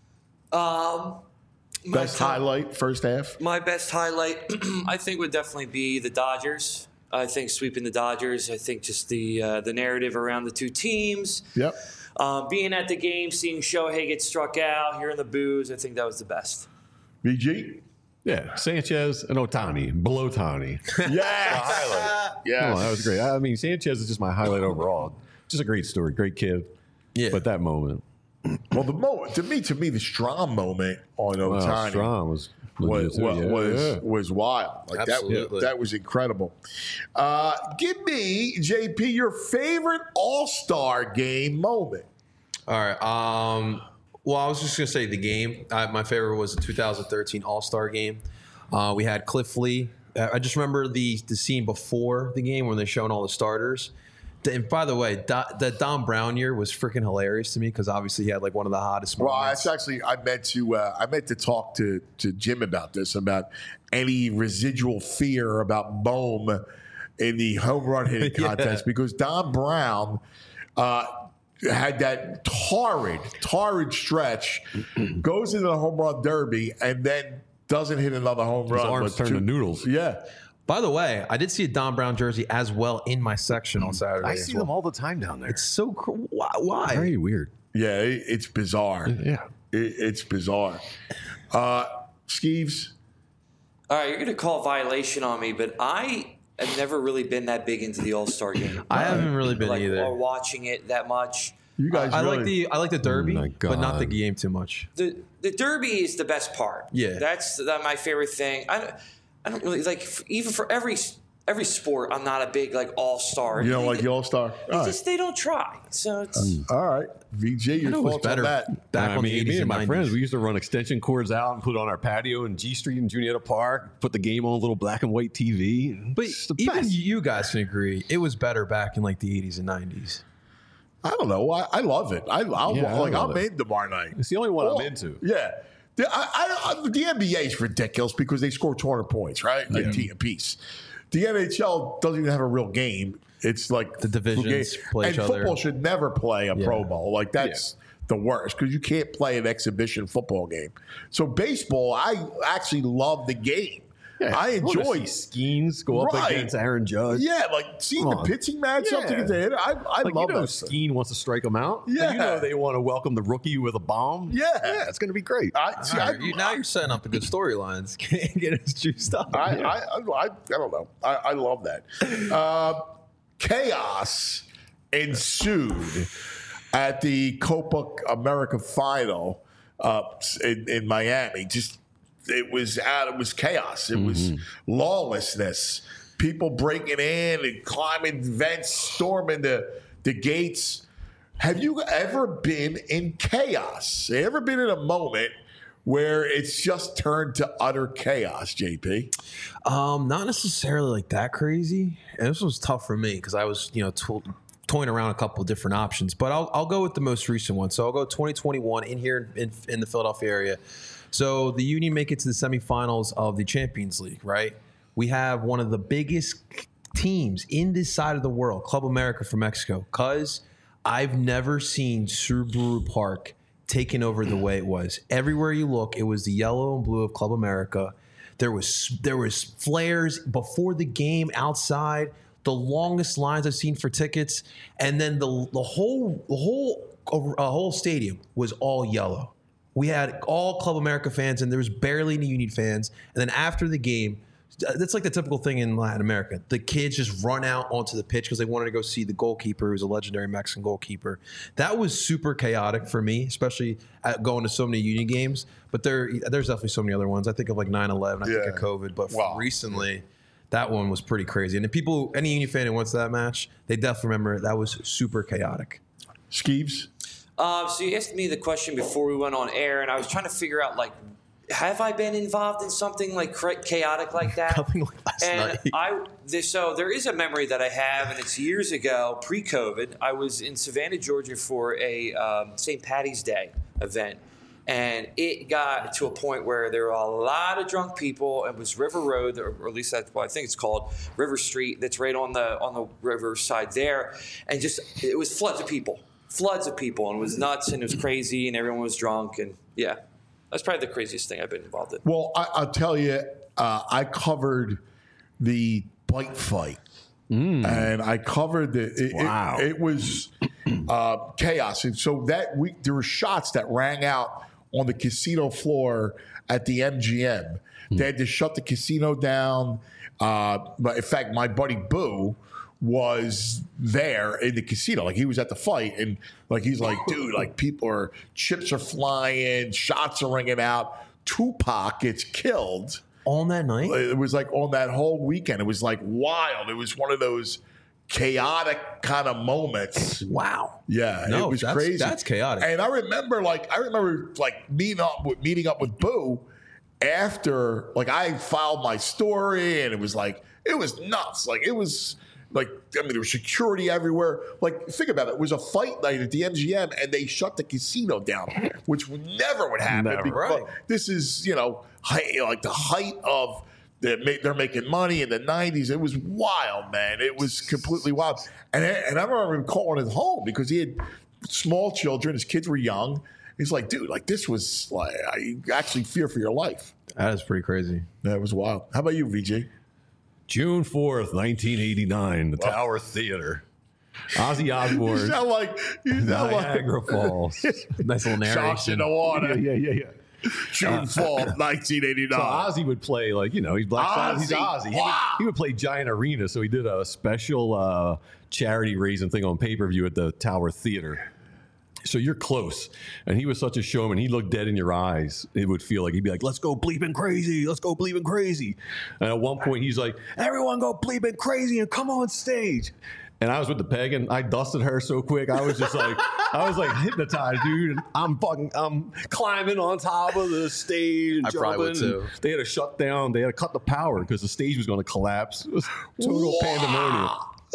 Best highlight first half? My best highlight, I think, would definitely be the Dodgers. I think sweeping the Dodgers. I think just the narrative around the two teams. Yep. Being at the game, seeing Shohei get struck out, hearing the boos, I think that was the best. BG? Yeah, Sanchez and Ohtani, below Ohtani. Yes. Highlight. Yes. Oh, that was great. I mean, Sanchez is just my highlight overall. Just a great story, great kid. Yeah. But that moment. Well, the moment to me, the Strom moment on Ohtani Strom was wild. Like that was incredible. Give me, JP, your favorite All-Star game moment. All right. Well, I was just going to say the game. My favorite was the 2013 All-Star game. We had Cliff Lee. I just remember the scene before the game when they're showing all the starters. And by the way, that Don Brown year was freaking hilarious to me because obviously he had like one of the hottest moments. Well, it's actually I meant to talk to Jim about this, about any residual fear about Bohm in the home run hitting contest because Don Brown had that torrid stretch, goes into the home run derby, and then doesn't hit another home run. His arms turn to noodles. Yeah. By the way, I did see a Don Brown jersey as well in my section on Saturday. I see them all the time down there. It's so why? Very weird. Yeah, it's bizarre. Yeah. It's bizarre. Skeeves? All right, you're going to call violation on me, but I have never really been that big into the All-Star game. I haven't really been either. Or watching it that much. You guys I like the Derby, but not the game too much. The Derby is the best part. Yeah. That's my favorite thing. I don't really like, even for every sport, I'm not a big like all-star. You don't like the all-star? They don't try. So it's all right. VJ, your thoughts on that? Back on the 80s me and and my 90s. friends, we used to run extension cords out and put it on our patio in G Street in Juniata Park, put the game on a little black and white TV. But It's the even best. you guys can agree, it was better back in like the 80s and 90s. I don't know. I love it. I'm in tomorrow night. It's the only one I'm into. Yeah. The NBA is ridiculous because they score 200 points, right? A piece. The NHL doesn't even have a real game. It's like the divisions play each other. And football should never play a Pro Bowl. Like that's the worst because you can't play an exhibition football game. So baseball, I actually love the game. Yeah, I enjoy Skeens go up against Aaron Judge. Yeah, like seeing the pitching matchup against the hitter. I love that. Skeen wants to strike him out. Yeah. And they want to welcome the rookie with a bomb. Yeah, it's going to be great. Now you're setting up the good storylines. Can't get his juiced up. I don't know. I love that. Chaos ensued at the Copa America final in Miami. It was chaos. It was lawlessness. People breaking in and climbing vents, storming the gates. Have you ever been in chaos? Have you ever been in a moment where it's just turned to utter chaos, JP? Not necessarily like that crazy. And this was tough for me because I was, toying around a couple of different options. But I'll go with the most recent one. So I'll go 2021 in here in the Philadelphia area. So the Union make it to the semifinals of the Champions League, right? We have one of the biggest teams in this side of the world, Club America from Mexico, because I've never seen Subaru Park taken over the way it was. Everywhere you look, it was the yellow and blue of Club America. There was flares before the game outside, the longest lines I've seen for tickets, and then the whole stadium was all yellow. We had all Club America fans, and there was barely any Union fans. And then after the game, that's like the typical thing in Latin America. The kids just run out onto the pitch because they wanted to go see the goalkeeper, who was a legendary Mexican goalkeeper. That was super chaotic for me, especially going to so many Union games. But there's definitely so many other ones. I think of like 9/11. I think of COVID. But recently, that one was pretty crazy. And the any Union fan who went to that match, they definitely remember that was super chaotic. Skeeves? So you asked me the question before we went on air, and I was trying to figure out, like, have I been involved in something like chaotic like that? Nothing like last night. So there is a memory that I have, and it's years ago, pre-COVID. I was in Savannah, Georgia for a St. Patty's Day event. And it got to a point where there were a lot of drunk people. It was River Road, or at least that's what I think it's called, River Street. That's right on the river side there. And it was floods of people, and it was nuts, and it was crazy, and everyone was drunk, and yeah, that's probably the craziest thing I've been involved in. Well, I'll tell you, I covered the bike fight, and I covered it was chaos, and so that week there were shots that rang out on the casino floor at the MGM. They had to shut the casino down. But in fact, my buddy Boo was there in the casino. Like, he was at the fight, and like, he's like, dude, like, chips are flying, shots are ringing out. Tupac gets killed. On that night? It was like on that whole weekend. It was like wild. It was one of those chaotic kind of moments. Wow. Yeah, it was crazy. That's chaotic. And I remember meeting up with Boo after, like, I filed my story, and it was nuts. Like, it was like, I mean, there was security everywhere. Like, think about it. It was a fight night at the MGM, and they shut the casino down, which never would happen. Right. This is, the height of they're making money in the 90s. It was wild, man. It was completely wild. And I remember him calling it home because he had small children. His kids were young. He's like, dude, like, this was like, I actually fear for your life. That is pretty crazy. That was wild. How about you, VJ? June 4th, 1989, the Tower Theater. Ozzy Osbourne. You sound like Niagara Falls. Nice little narration. Sharks in the water. Yeah. June 4th, 1989. So Ozzy would play, like, he's Black Sabbath. He's Ozzy. Wow. He would play Giant Arena, so he did a special charity raising thing on pay-per-view at the Tower Theater. So you're close. And he was such a showman. He looked dead in your eyes. It would feel like he'd be like, let's go bleeping crazy. Let's go bleeping crazy. And at one point, he's like, everyone go bleeping crazy and come on stage. And I was with the peg, and I dusted her so quick. I was just like, hypnotized, dude. And I'm climbing on top of the stage and I jumping. probably would too. They had to shut down. They had to cut the power because the stage was going to collapse. It was total pandemonium.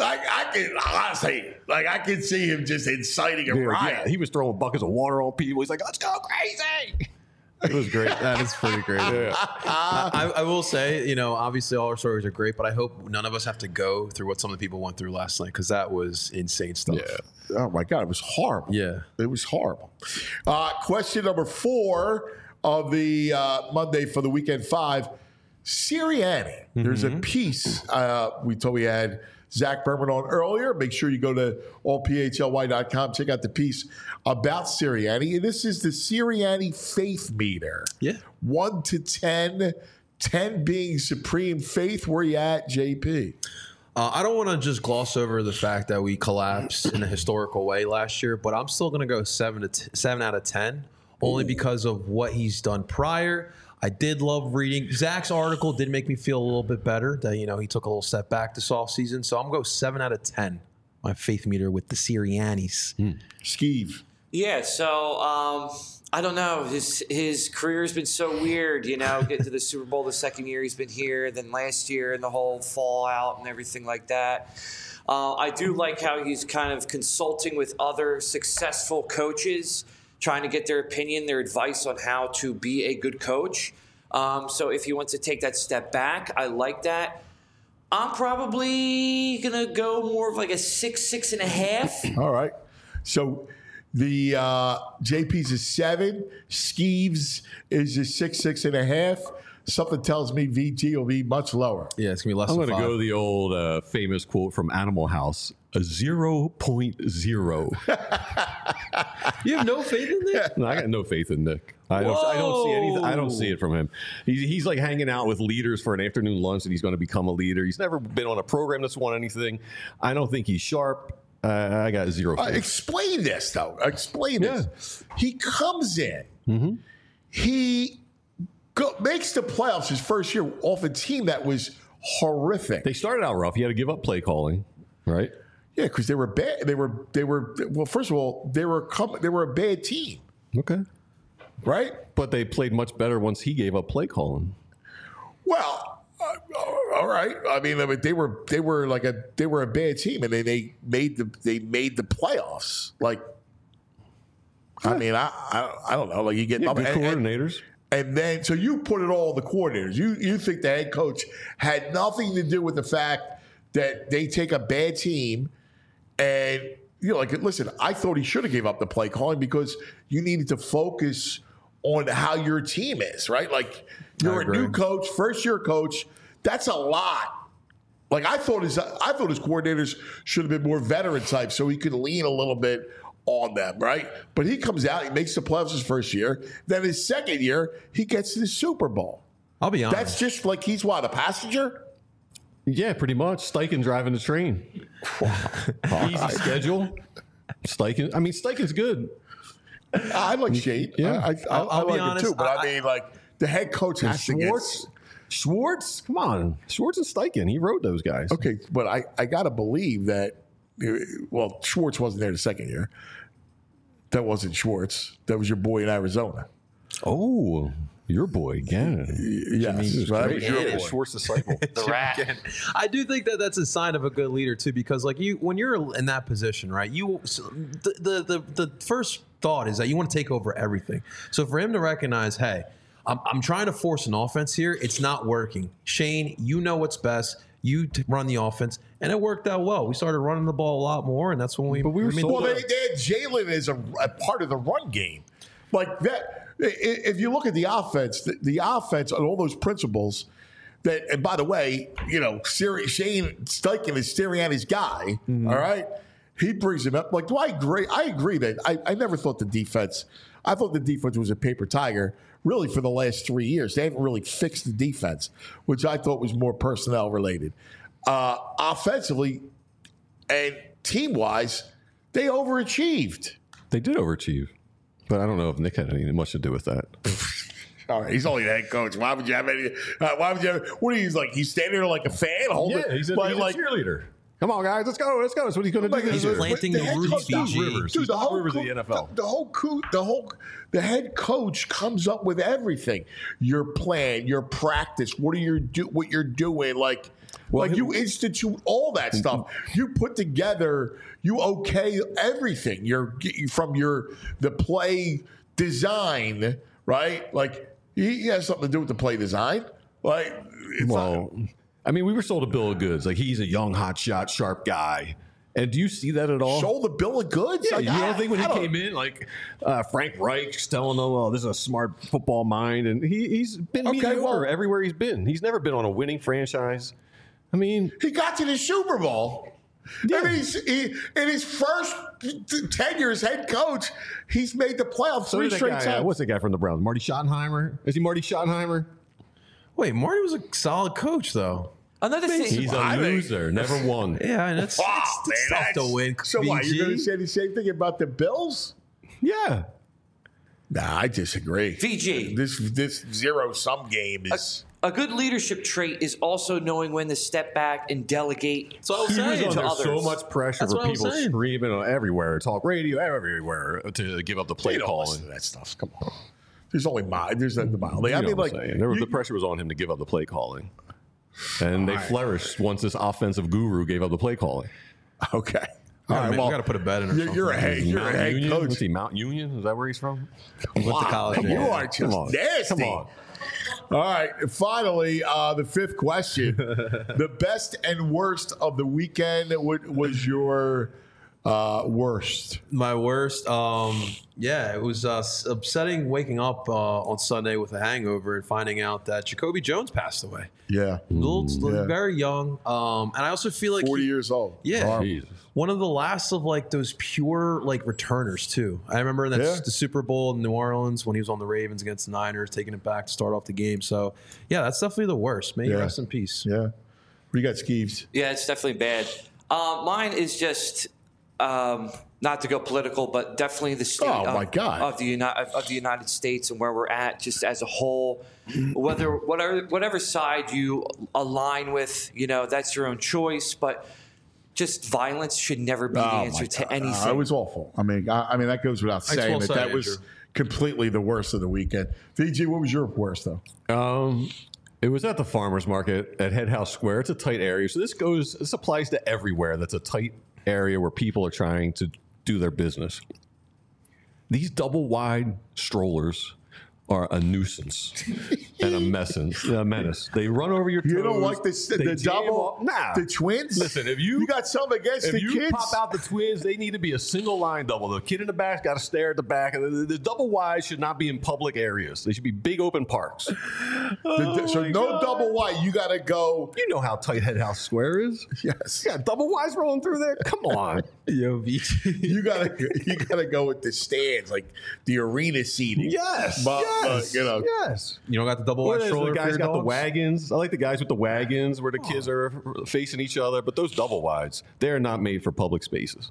I can see him just inciting a riot. Yeah, he was throwing buckets of water on people. He's like, let's go crazy. It was great. That is pretty great. Yeah. I will say, obviously all our stories are great, but I hope none of us have to go through what some of the people went through last night, because that was insane stuff. Yeah. Oh, my God. It was horrible. Yeah. It was horrible. Question number 4 of the Monday for the Weekend 5. Sirianni. There's a piece we had Zach Berman on earlier. Make sure you go to allphly.com. Check out the piece about Sirianni. And this is the Sirianni faith meter. Yeah. 1 to 10, 10 being supreme faith. Where you at, JP? I don't want to just gloss over the fact that we collapsed in a historical way last year, but I'm still going to go 7 out of 10, only because of what he's done prior. I did love reading. Zach's article did make me feel a little bit better that, he took a little step back this offseason. So I'm going to go 7 out of 10, my faith meter with the Siriannis. Skeeve. Yeah, so I don't know. His career's been so weird, getting to the Super Bowl the second year he's been here, then last year and the whole fallout and everything like that. I do like how he's kind of consulting with other successful coaches, trying to get their opinion, their advice on how to be a good coach. So if he wants to take that step back, I like that. I'm probably going to go more of like a 6.5. All right. So the JP's a 7. Skeeves is a 6.5. Something tells me VG will be much lower. Yeah, it's going to be less I'm than 5. going to go the old famous quote from Animal House, a 0.0. You have no faith in Nick? No, I got no faith in Nick. I don't see anything. I don't see it from him. He's like hanging out with leaders for an afternoon lunch, and he's going to become a leader. He's never been on a program that's won anything. I don't think he's sharp. I got 0 faith. Explain this, though. Explain this. He comes in. Mm-hmm. He makes the playoffs his first year off a team that was horrific. They started out rough. He had to give up play calling, right? Yeah, because they were bad. They were. Well, first of all, they were a bad team. Okay. right? But they played much better once he gave up play calling. Well, all right. I mean, they were a bad team, and they made the playoffs. Like, I mean, I don't know. Like, you get good coordinators. And then, so you put it all on the coordinators. You think the head coach had nothing to do with the fact that they take a bad team and, like, listen, I thought he should have gave up the play calling because you needed to focus on how your team is, right? Like, you're a new coach, first-year coach. That's a lot. Like, I thought his coordinators should have been more veteran type so he could lean a little bit on them, right? But he comes out, he makes the playoffs his first year. Then his second year, he gets to the Super Bowl. I'll be honest. That's just like he's a passenger? Yeah, pretty much. Steichen driving the train. Easy schedule. Steichen's good. I like Shane. Yeah. I be like honest, him too. But I mean, like, the head coach has to get... Schwartz? Come on. Schwartz and Steichen. He wrote those guys. Okay, but I got to believe that, well, Schwartz wasn't there the second year. That wasn't Schwartz. That was your boy in Arizona. Oh, your boy again. Yes, right? Your boy. Schwartz disciple. The rat. I do think that that's a sign of a good leader too, because like when you're in that position, right? The first thought is that you want to take over everything. So for him to recognize, hey, I'm trying to force an offense here. It's not working. Shane, you know what's best. You run the offense, and it worked out well. We started running the ball a lot more, and that's when we. Well, they had Jalen as a part of the run game, like that. If you look at the offense, the offense and all those principles. That, and by the way, Shane Steichen is Sirianni's guy. Mm-hmm. All right, he brings him up. Like, do I agree? I agree that I never thought the defense. I thought the defense was a paper tiger. Really, for the last 3 years, they haven't really fixed the defense, which I thought was more personnel related. Offensively and team wise, they overachieved. They did overachieve, but I don't know if Nick had anything much to do with that. All right, he's only the head coach. Why would you have any? What are you like? He's standing there like a fan, holding. Yeah, he's a cheerleader. Come on, guys, let's go. That's what he's going to do. He's planting the roots. Dude, the whole Rivers of the NFL. The head coach comes up with everything. Your plan, your practice. What you're doing. Like you institute all that stuff. You put together. You okay everything. From the play design, right? Like he has something to do with the play design. Like we were sold a bill of goods. Like, he's a young, hotshot, sharp guy. And do you see that at all? Sold the bill of goods? Yeah, you don't think when he came in, like, Frank Reich's telling him, oh, this is a smart football mind. And he's been mediocre everywhere he's been. He's never been on a winning franchise. I mean, he got to the Super Bowl. Yeah. I mean, in his first tenure as head coach, he's made the playoffs 3 straight times. What's the guy from the Browns? Marty Schottenheimer? Is he Marty Schottenheimer? Wait, Marty was a solid coach, though. Another thing. He's a loser. Never won. Yeah, and it's tough to win. So why? You're going to say the same thing about the Bills? Yeah. Nah, I disagree. VG. This zero-sum game is... A good leadership trait is also knowing when to step back and delegate to others. So much pressure for people screaming everywhere, talk radio, everywhere, to give up the play calling. Listen to that stuff. Come on. There's the mile. The pressure was on him to give up the play calling. And they flourished once this offensive guru gave up the play calling. Okay. All right, we got to put a bet in. You're a head coach. Is he Mount Union? Is that where he's from? He went to college. You are just nasty. Come on. All right. Finally, the fifth question. The best and worst of the weekend was your worst. My worst. It was upsetting waking up on Sunday with a hangover and finding out that Jacoby Jones passed away. Yeah. Very young. And I also feel like 40 years old. Yeah. One of the last of like those pure like returners too. I remember the Super Bowl in New Orleans when he was on the Ravens against the Niners, taking it back to start off the game. So yeah, that's definitely the worst. May you rest in peace. Yeah. We got Skeeves. Yeah, it's definitely bad. Mine is just not to go political, but definitely the state of the United States and where we're at just as a whole. Whatever side you align with, that's your own choice. But just violence should never be the answer to anything. It was awful. I mean, that goes without saying that was completely the worst of the weekend. VG, what was your worst though? It was at the farmers market at Head House Square. It's a tight area, so this applies to everywhere. That's a tight area where people are trying to do their business. These double wide strollers are a nuisance and a menace. They run over your toes. You don't like the double? Nah. The twins? Listen, if you got something against the kids? If you pop out the twins, they need to be a single line double. The kid in the back's got to stare at the back. The double wides should not be in public areas. They should be big open parks. So no double wide. You got to go. You know how tight Head House Square is. Yes. You got double wides rolling through there. Come on. Yo, you gotta go with the stands, like the arena seating. Yes. Yes. Yes. You don't got the double wide stroller. The guys for your got the dogs? wagons. I like the guys with the wagons where the kids are facing each other. But those double wides, they're not made for public spaces.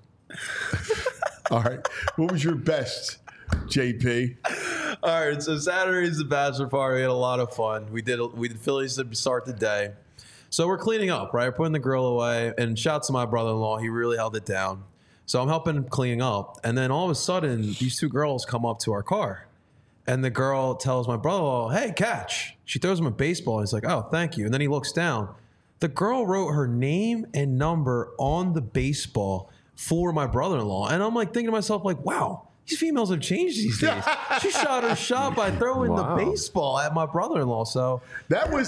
All right. What was your best, JP? All right. So Saturday's the bachelor party. We had a lot of fun. We did Phillies to start the day. So we're cleaning up, right? Putting the grill away. And shout to my brother-in-law. He really held it down. So I'm helping him clean up. And then all of a sudden, these two girls come up to our car. And the girl tells my brother-in-law, hey, catch. She throws him a baseball. He's like, oh, thank you. And then he looks down. The girl wrote her name and number on the baseball for my brother-in-law. And I'm like thinking to myself, like, wow, these females have changed these days. She shot her shot by throwing the baseball at my brother-in-law. So that was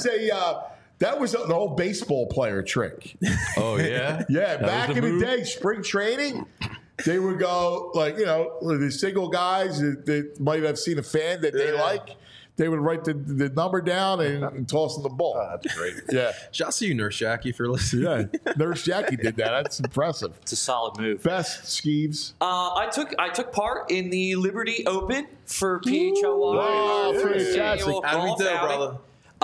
an old baseball player trick. Oh, yeah? Yeah, back in the day, spring training, they would go, like, the single guys that might have seen a fan that they like. They would write the number down and toss them the ball. That's great. Yeah. Shouts to you, Nurse Jackie, for listening. Yeah, Nurse Jackie did that. That's impressive. It's a solid move. Best, Skeeves? I took part in the Liberty Open for PHLY. Wow, fantastic. How do we do, brother?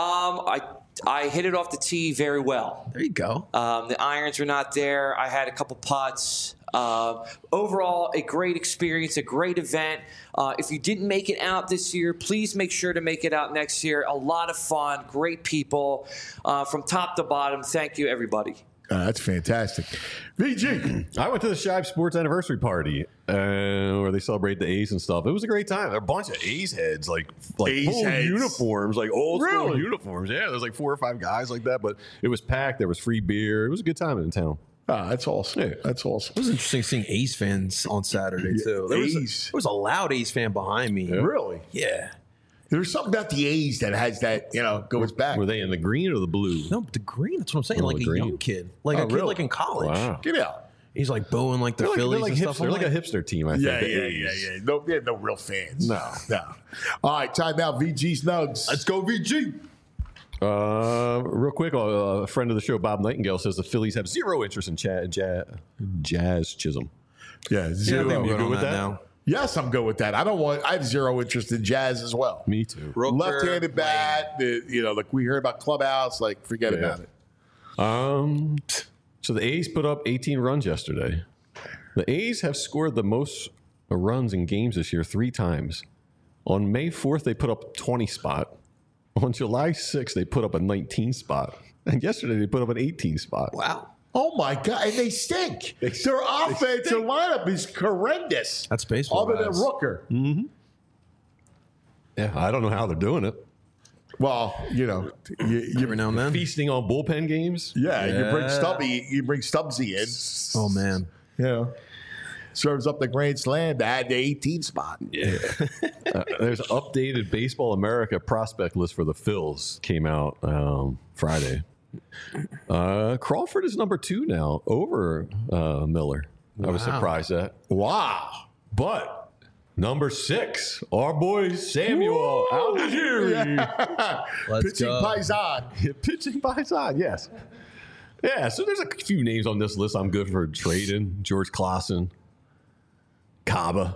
I hit it off the tee very well. There you go. The irons were not there. I had a couple putts. Overall, a great experience, a great event. If you didn't make it out this year, please make sure to make it out next year. A lot of fun, great people from top to bottom. Thank you, everybody. That's fantastic. VG. I went to the Shibe Sports anniversary party where they celebrate the A's and stuff. It was a great time. There were a bunch of A's heads, like A's full heads. uniforms, like old school uniforms. Yeah, there's like 4 or 5 guys like that, but it was packed. There was free beer. It was a good time in town. That's awesome. Yeah. That's awesome. It was interesting seeing A's fans on Saturday, too. There was a loud A's fan behind me. Yeah. Really? Yeah. There's something about the A's that has that, goes back. Were they in the green or the blue? No, the green. That's what I'm saying. Like a young kid. Like a kid really? like in college. Wow. Get out. He's like booing like the Phillies and stuff. They're like a hipster team, I think. Yeah. No, they have no real fans. No. All right, time out. VG's Nugs. Let's go, VG. Real quick, a friend of the show, Bob Nightingale, says the Phillies have zero interest in Jazz Chisholm. Yeah, zero. Yeah, You good with that? now. Yes, I'm good with that. I have zero interest in Jazz as well. Me too. Rooker, Left-handed bat, like we heard about Clubhouse, like forget about it. So the A's put up 18 runs yesterday. The A's have scored the most runs in games this year 3 times. On May 4th, they put up a 20 spot. On July 6th, they put up a 19 spot. And yesterday, they put up an 18 spot. Wow. Oh, my God. And they stink. Their offensive lineup is horrendous. That's baseball. Other than Rooker. Mm-hmm. Yeah, I don't know how they're doing it. Well, Every now and then. Feasting on bullpen games. Yeah, you bring Stubbsy in. Oh, man. Serves up the grand slam to add the 18 spot. Yeah. There's an updated Baseball America prospect list for the Phils. Came out Friday. Crawford is number 2 now over Miller. Wow. I was surprised at. Wow. But number 6, our boy Samuel Algieri. Pitching Paisan. Pitching Paisan, yes. Yeah, so there's a few names on this list I'm good for trading. George Clausen. Caba.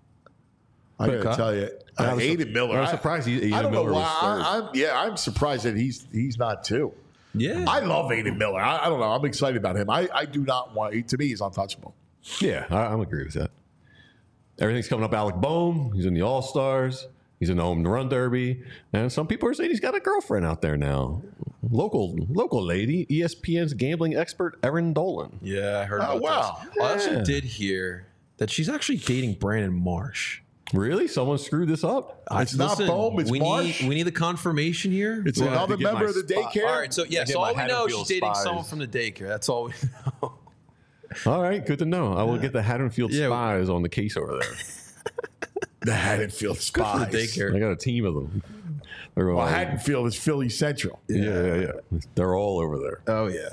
I got to tell you, Aiden Miller. I'm surprised Aiden I don't know Miller why. I'm surprised that he's not 2. Yeah. I love Aiden Miller. I don't know. I'm excited about him. I do not want. To me, he's untouchable. Yeah, I'm agree with that. Everything's coming up. Alec Boehm. He's in the All-Stars. He's in the home run derby, and some people are saying he's got a girlfriend out there now. Local lady, ESPN's gambling expert Erin Dolan. Yeah, I heard about this. I also did hear that she's actually dating Brandon Marsh. Really? Someone screwed this up? It's not Bohm, it's Marsh. We need the confirmation here. It's another member of the daycare. All right, so all we know is she's dating someone from the daycare. That's all we know. All right, good to know. I will get the Haddonfield Spies on the case over there. The Haddonfield Spies. The daycare. I got a team of them. Well, Haddonfield is Philly Central. Yeah. They're all over there. Oh, yeah.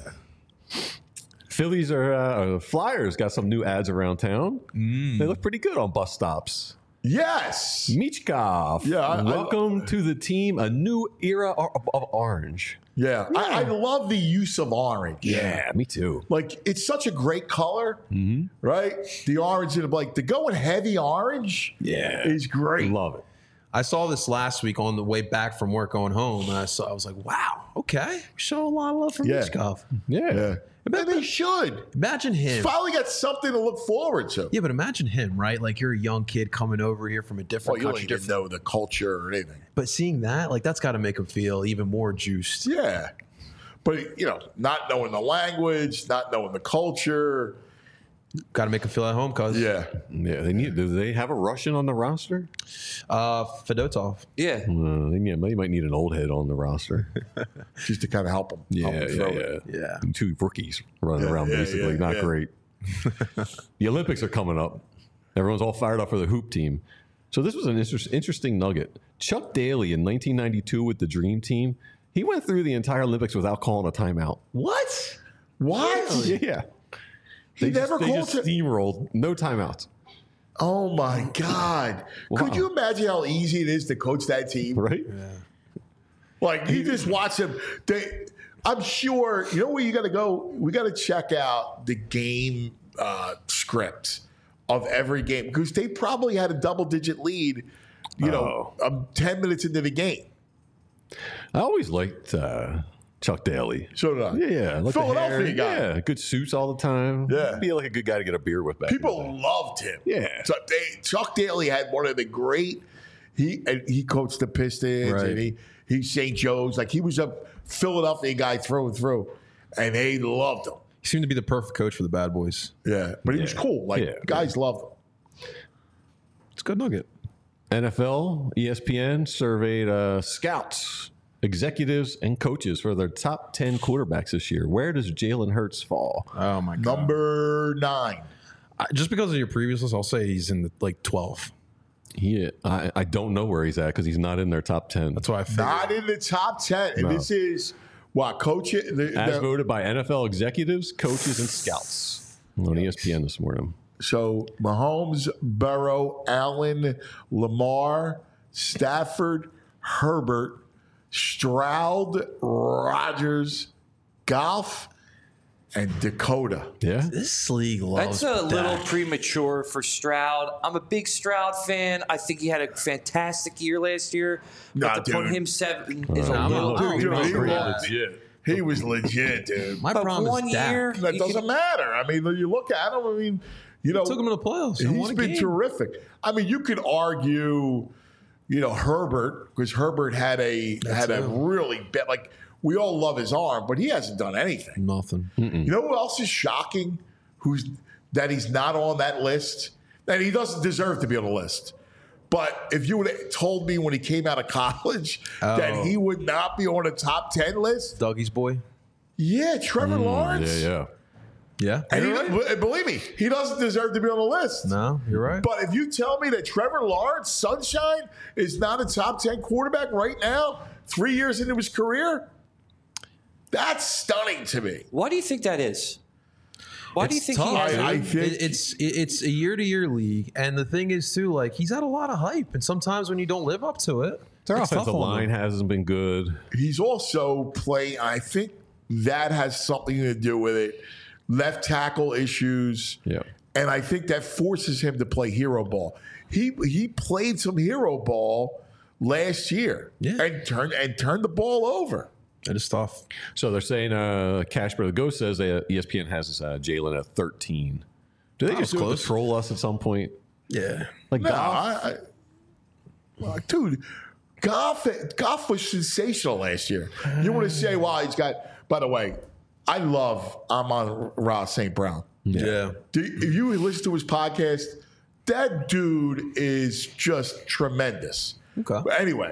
Phillies Flyers got some new ads around town. They look pretty good on bus stops. Yes. Michkov. Yeah. Welcome to the team, a new era of orange. Yeah. I love the use of orange. Yeah, me too. Like, it's such a great color, right? The orange and the going heavy orange is great. Love it. I saw this last week on the way back from work going home, and I was like, wow, okay. Show a lot of love for Michkov. Yeah. And they should. Imagine him. He's finally got something to look forward to. Yeah, but imagine him, right? Like, you're a young kid coming over here from a different country. You don't even know the culture or anything. But seeing that, like, that's got to make him feel even more juiced. Yeah. But, not knowing the language, not knowing the culture. Got to make him feel at home, cuz. Yeah. Yeah. Do they have a Russian on the roster? Fedotov. Yeah. They might need an old head on the roster. Just to kind of help them. Yeah. Two rookies running around basically. Not great. The Olympics are coming up. Everyone's all fired up for the hoop team. So this was an interesting nugget. Chuck Daly in 1992 with the Dream Team, he went through the entire Olympics without calling a timeout. What? Yeah. They just steamrolled. No timeouts. Oh, my God. Wow. Could you imagine how easy it is to coach that team? Right? Yeah. Like, you just watch them. I'm sure, where you got to go? We got to check out the game script of every game because they probably had a double-digit lead, 10 minutes into the game. I always liked Chuck Daly. So did I. Yeah. Like Philadelphia guy. Yeah. Good suits all the time. Yeah. Be like a good guy to get a beer with back. People loved him. Yeah. So Chuck Daly had one of the great, he coached the Pistons and he St. Joe's. Like, he was a Philadelphia guy through and through. And they loved him. He seemed to be the perfect coach for the bad boys. Yeah. But he was cool. Like, guys loved him. It's a good nugget. NFL, ESPN surveyed scouts, executives, and coaches for their top 10 quarterbacks this year. Where does Jalen Hurts fall? Oh, my God. Number 9. Just because of your previous list, I'll say he's in the 12. I don't know where he's at because he's not in their top 10. That's why I figured. Not in the top 10. And this is coach as voted by NFL executives, coaches, and scouts on ESPN this morning. So Mahomes, Burrow, Allen, Lamar, Stafford, Herbert, Stroud, Rodgers, Goff, and Dakota. Yeah. This league loves That's a little premature for Stroud. I'm a big Stroud fan. I think he had a fantastic year last year. But to put him 7 is a little legit. He was legit, dude. My problem is Dak. That doesn't matter. I mean, you look at him, took him to the playoffs. He's been terrific. I mean, you could argue, Herbert, because Herbert had a really bad, like, we all love his arm, but he hasn't done anything. Nothing. You know who else is shocking? That he's not on that list? And he doesn't deserve to be on the list. But if you would have told me when he came out of college that he would not be on a top 10 list. Dougie's boy? Yeah, Trevor Lawrence. Yeah. And believe me, he doesn't deserve to be on the list. No, you're right. But if you tell me that Trevor Lawrence, Sunshine, is not a top 10 quarterback right now, 3 years into his career, that's stunning to me. Why do you think that is? Why do you think he has? I think it's a year-to-year league, and the thing is too, like, he's had a lot of hype, and sometimes when you don't live up to it, their offensive line hasn't been good. He's also playing. I think that has something to do with it. Left tackle issues, and I think that forces him to play hero ball. He played some hero ball last year, and turned the ball over. It is tough. So they're saying Cash Brother Ghost says that ESPN has Jalen at 13. Do they just troll us at some point? Yeah. Like no, Goff? Dude, Goff was sensational last year. You want to say, well, he's got, by the way, I'm on Ross St. Brown. Yeah. If you listen to his podcast, that dude is just tremendous. Okay. But anyway,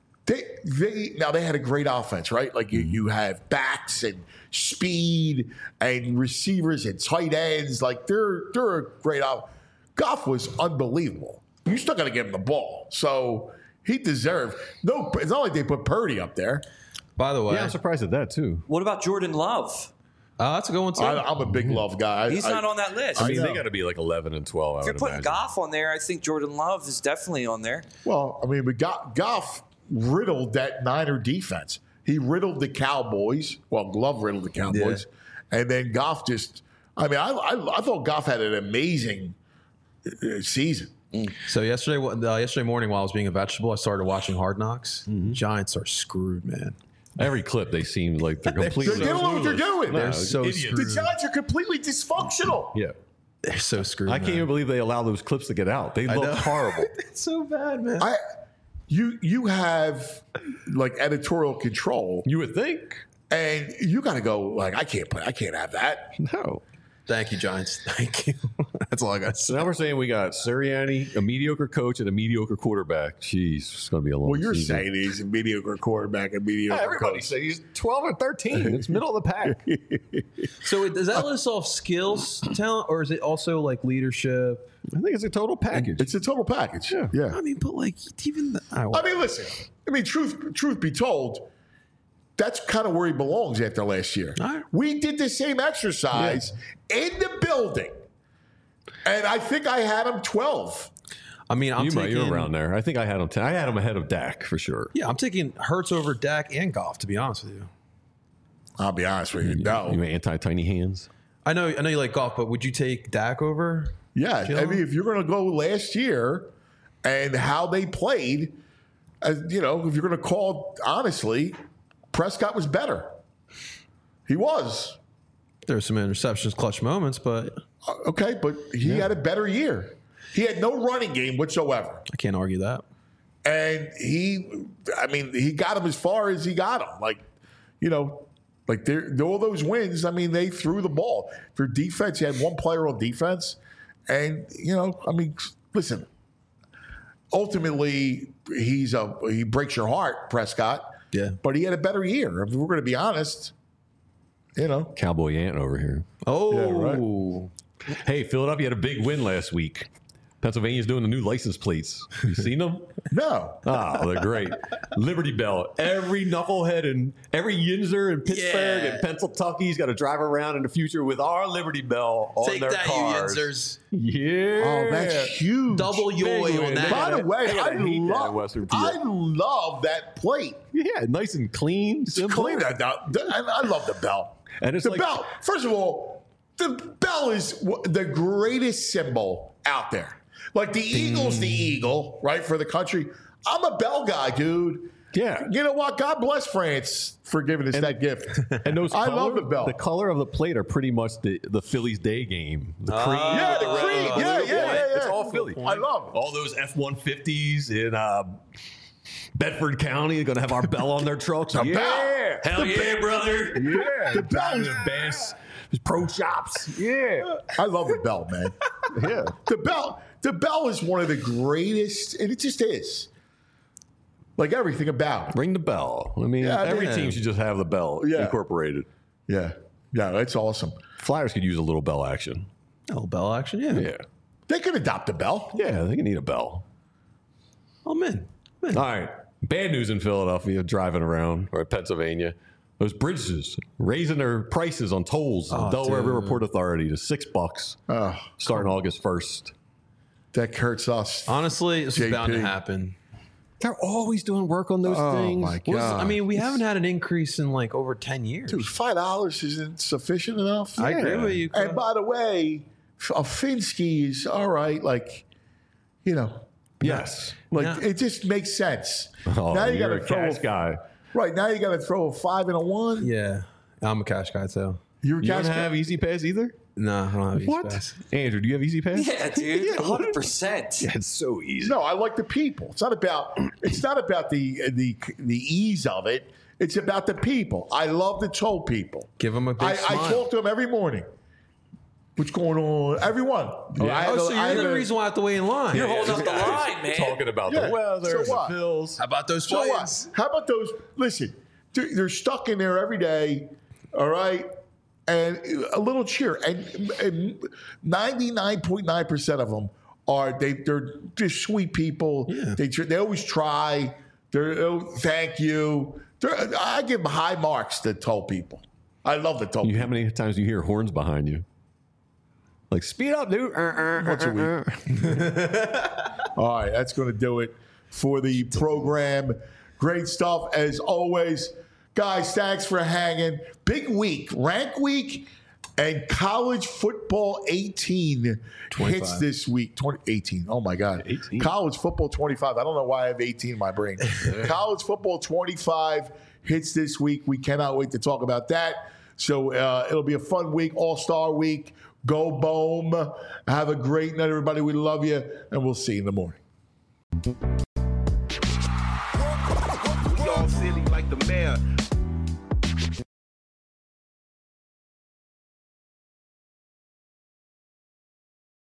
they had a great offense, right? Like you have backs and speed and receivers and tight ends. Like they're a great offense. Goff was unbelievable. You still got to give him the ball. So he deserved. No, it's not like they put Purdy up there. By the way, I'm surprised at that too. What about Jordan Love? That's a good one too. I'm a big Love guy. He's not on that list. I mean, they got to be like 11 and 12. If you're putting Goff on there, I think Jordan Love is definitely on there. Well, I mean, Goff riddled that Niner defense. He riddled the Cowboys. Well, Love riddled the Cowboys. Yeah. And then Goff just, I mean, I thought Goff had an amazing season. So yesterday morning while I was being a vegetable, I started watching Hard Knocks. Giants are screwed, man. Every clip, they seem like they're completely. They don't know what they're doing. They're so screwed. The Giants are completely dysfunctional. Yeah. They're so screwed. I can't even believe they allow those clips to get out. They look horrible. It's so bad, man. You have like editorial control. You would think. And you got to go like, I can't have that. No. Thank you, Giants. Thank you. That's all I got to say. So now we're saying we got Sirianni, a mediocre coach, and a mediocre quarterback. Jeez, it's going to be a long Well, you're season. saying he's a mediocre quarterback and mediocre Everybody coach. says he's 12 or 13. It's middle of the pack. So does that list off skills, talent, or is it also like leadership? I think it's a total package. It's a total package. Yeah. I mean, but like even I mean, listen. I mean, truth be told, that's kind of where he belongs after last year. Right. We did the same exercise in the building, and I think I had him 12. I mean, you're around there. I think I had him 10. I had him ahead of Dak for sure. Yeah, I'm taking Hurts over Dak and Goff, to be honest with you. I'll be honest with you. No. You anti-tiny hands? I know you like Goff, but would you take Dak over? Yeah. I mean, if you're going to go last year and how they played, if you're going to call honestly, Prescott was better. He was. There were some interceptions, clutch moments, but okay, but he had a better year. He had no running game whatsoever. I can't argue that. And he got him as far as he got him. Like all those wins, I mean, they threw the ball. Their defense, he had one player on defense. And, listen, ultimately, he breaks your heart, Prescott. Yeah. But he had a better year. If we're going to be honest, Cowboy Ant over here. Oh. Yeah, right. Hey, Philadelphia had a big win last week. Pennsylvania's doing the new license plates. You seen them? No. Oh, they're great. Liberty Bell. Every knucklehead and every Yinzer in Pittsburgh and Pennsylvania's got to drive around in the future with our Liberty Bell on their cars. You Yinzers. Yeah. Oh, that's huge. Double yoy on that. By the way, I love that plate. Yeah, nice and clean. It's clean. I love the bell. And it's the bell. First of all, the bell is the greatest symbol out there. Like the Eagle's the eagle, right, for the country. I'm a bell guy, dude. Yeah. You know what? God bless France for giving us that gift. And those I love the bell. The color of the plate are pretty much the Phillies day game. The cream. Yeah, the cream. Yeah. It's all Philly. I love it. All those F-150s in Bedford County are going to have our bell on their trucks. Bell. Hell yeah, brother. Yeah. The bell. The best. Pro shops. Yeah. I love the bell, man. Yeah. The bell is one of the greatest, and it just is. Like everything about it. Ring the bell. I mean, every team should just have the bell incorporated. Yeah. Yeah, that's awesome. Flyers could use a little bell action. A little bell action, yeah. Yeah. They could adopt a bell. Yeah, they can need a bell. Oh, man. All right. Bad news in Philadelphia, driving around, or Pennsylvania. Those bridges raising their prices on tolls. Delaware River Port Authority to $6 starting August 1st. That hurts us. Honestly, this is bound to happen. They're always doing work on those things. Oh, my God. We haven't had an increase in like over 10 years. Dude, $5 isn't sufficient enough. I agree with you. And by the way, a Finsky is all right. Like, Yes. It just makes sense. Oh, now you got you're to a throw cash guy. Right, now you got to throw a 5 and a 1. Yeah. I'm a cash guy, too. You're a You cash don't guy? have Easy Pass either? No, I don't have What? EasyPass. Andrew, do you have Easy Pass? Yeah, dude, 100%. Yeah, it's so easy. No, I like the people. It's not about the ease of it. It's about the people. I love the toll people. Give them a big I smile. talk to them every morning. What's going on? Everyone. Yeah. So you're the reason why I have to wait in line. You're holding up the line, man. Talking about Yeah, the weather, so what? the bills. How about those So what? flights? How about those? Listen, they're stuck in there every day, all right? And a little cheer. And 99.9% of them they're just sweet people. Yeah. They always try. Thank you. I give them high marks to toll people. I love the toll people. How many times do you hear horns behind you? Like, speed up, dude. Once a week. All right, that's going to do it for the program. Great stuff as always. Guys, thanks for hanging. Big week, rank week, and college football 18 hits this week. 18. Oh, my God. 18. College football 25. I don't know why I have 18 in my brain. College football 25 hits this week. We cannot wait to talk about that. So it'll be a fun week, all-star week. Go Bohm. Have a great night, everybody. We love you, and we'll see you in the morning. We all silly like the mayor.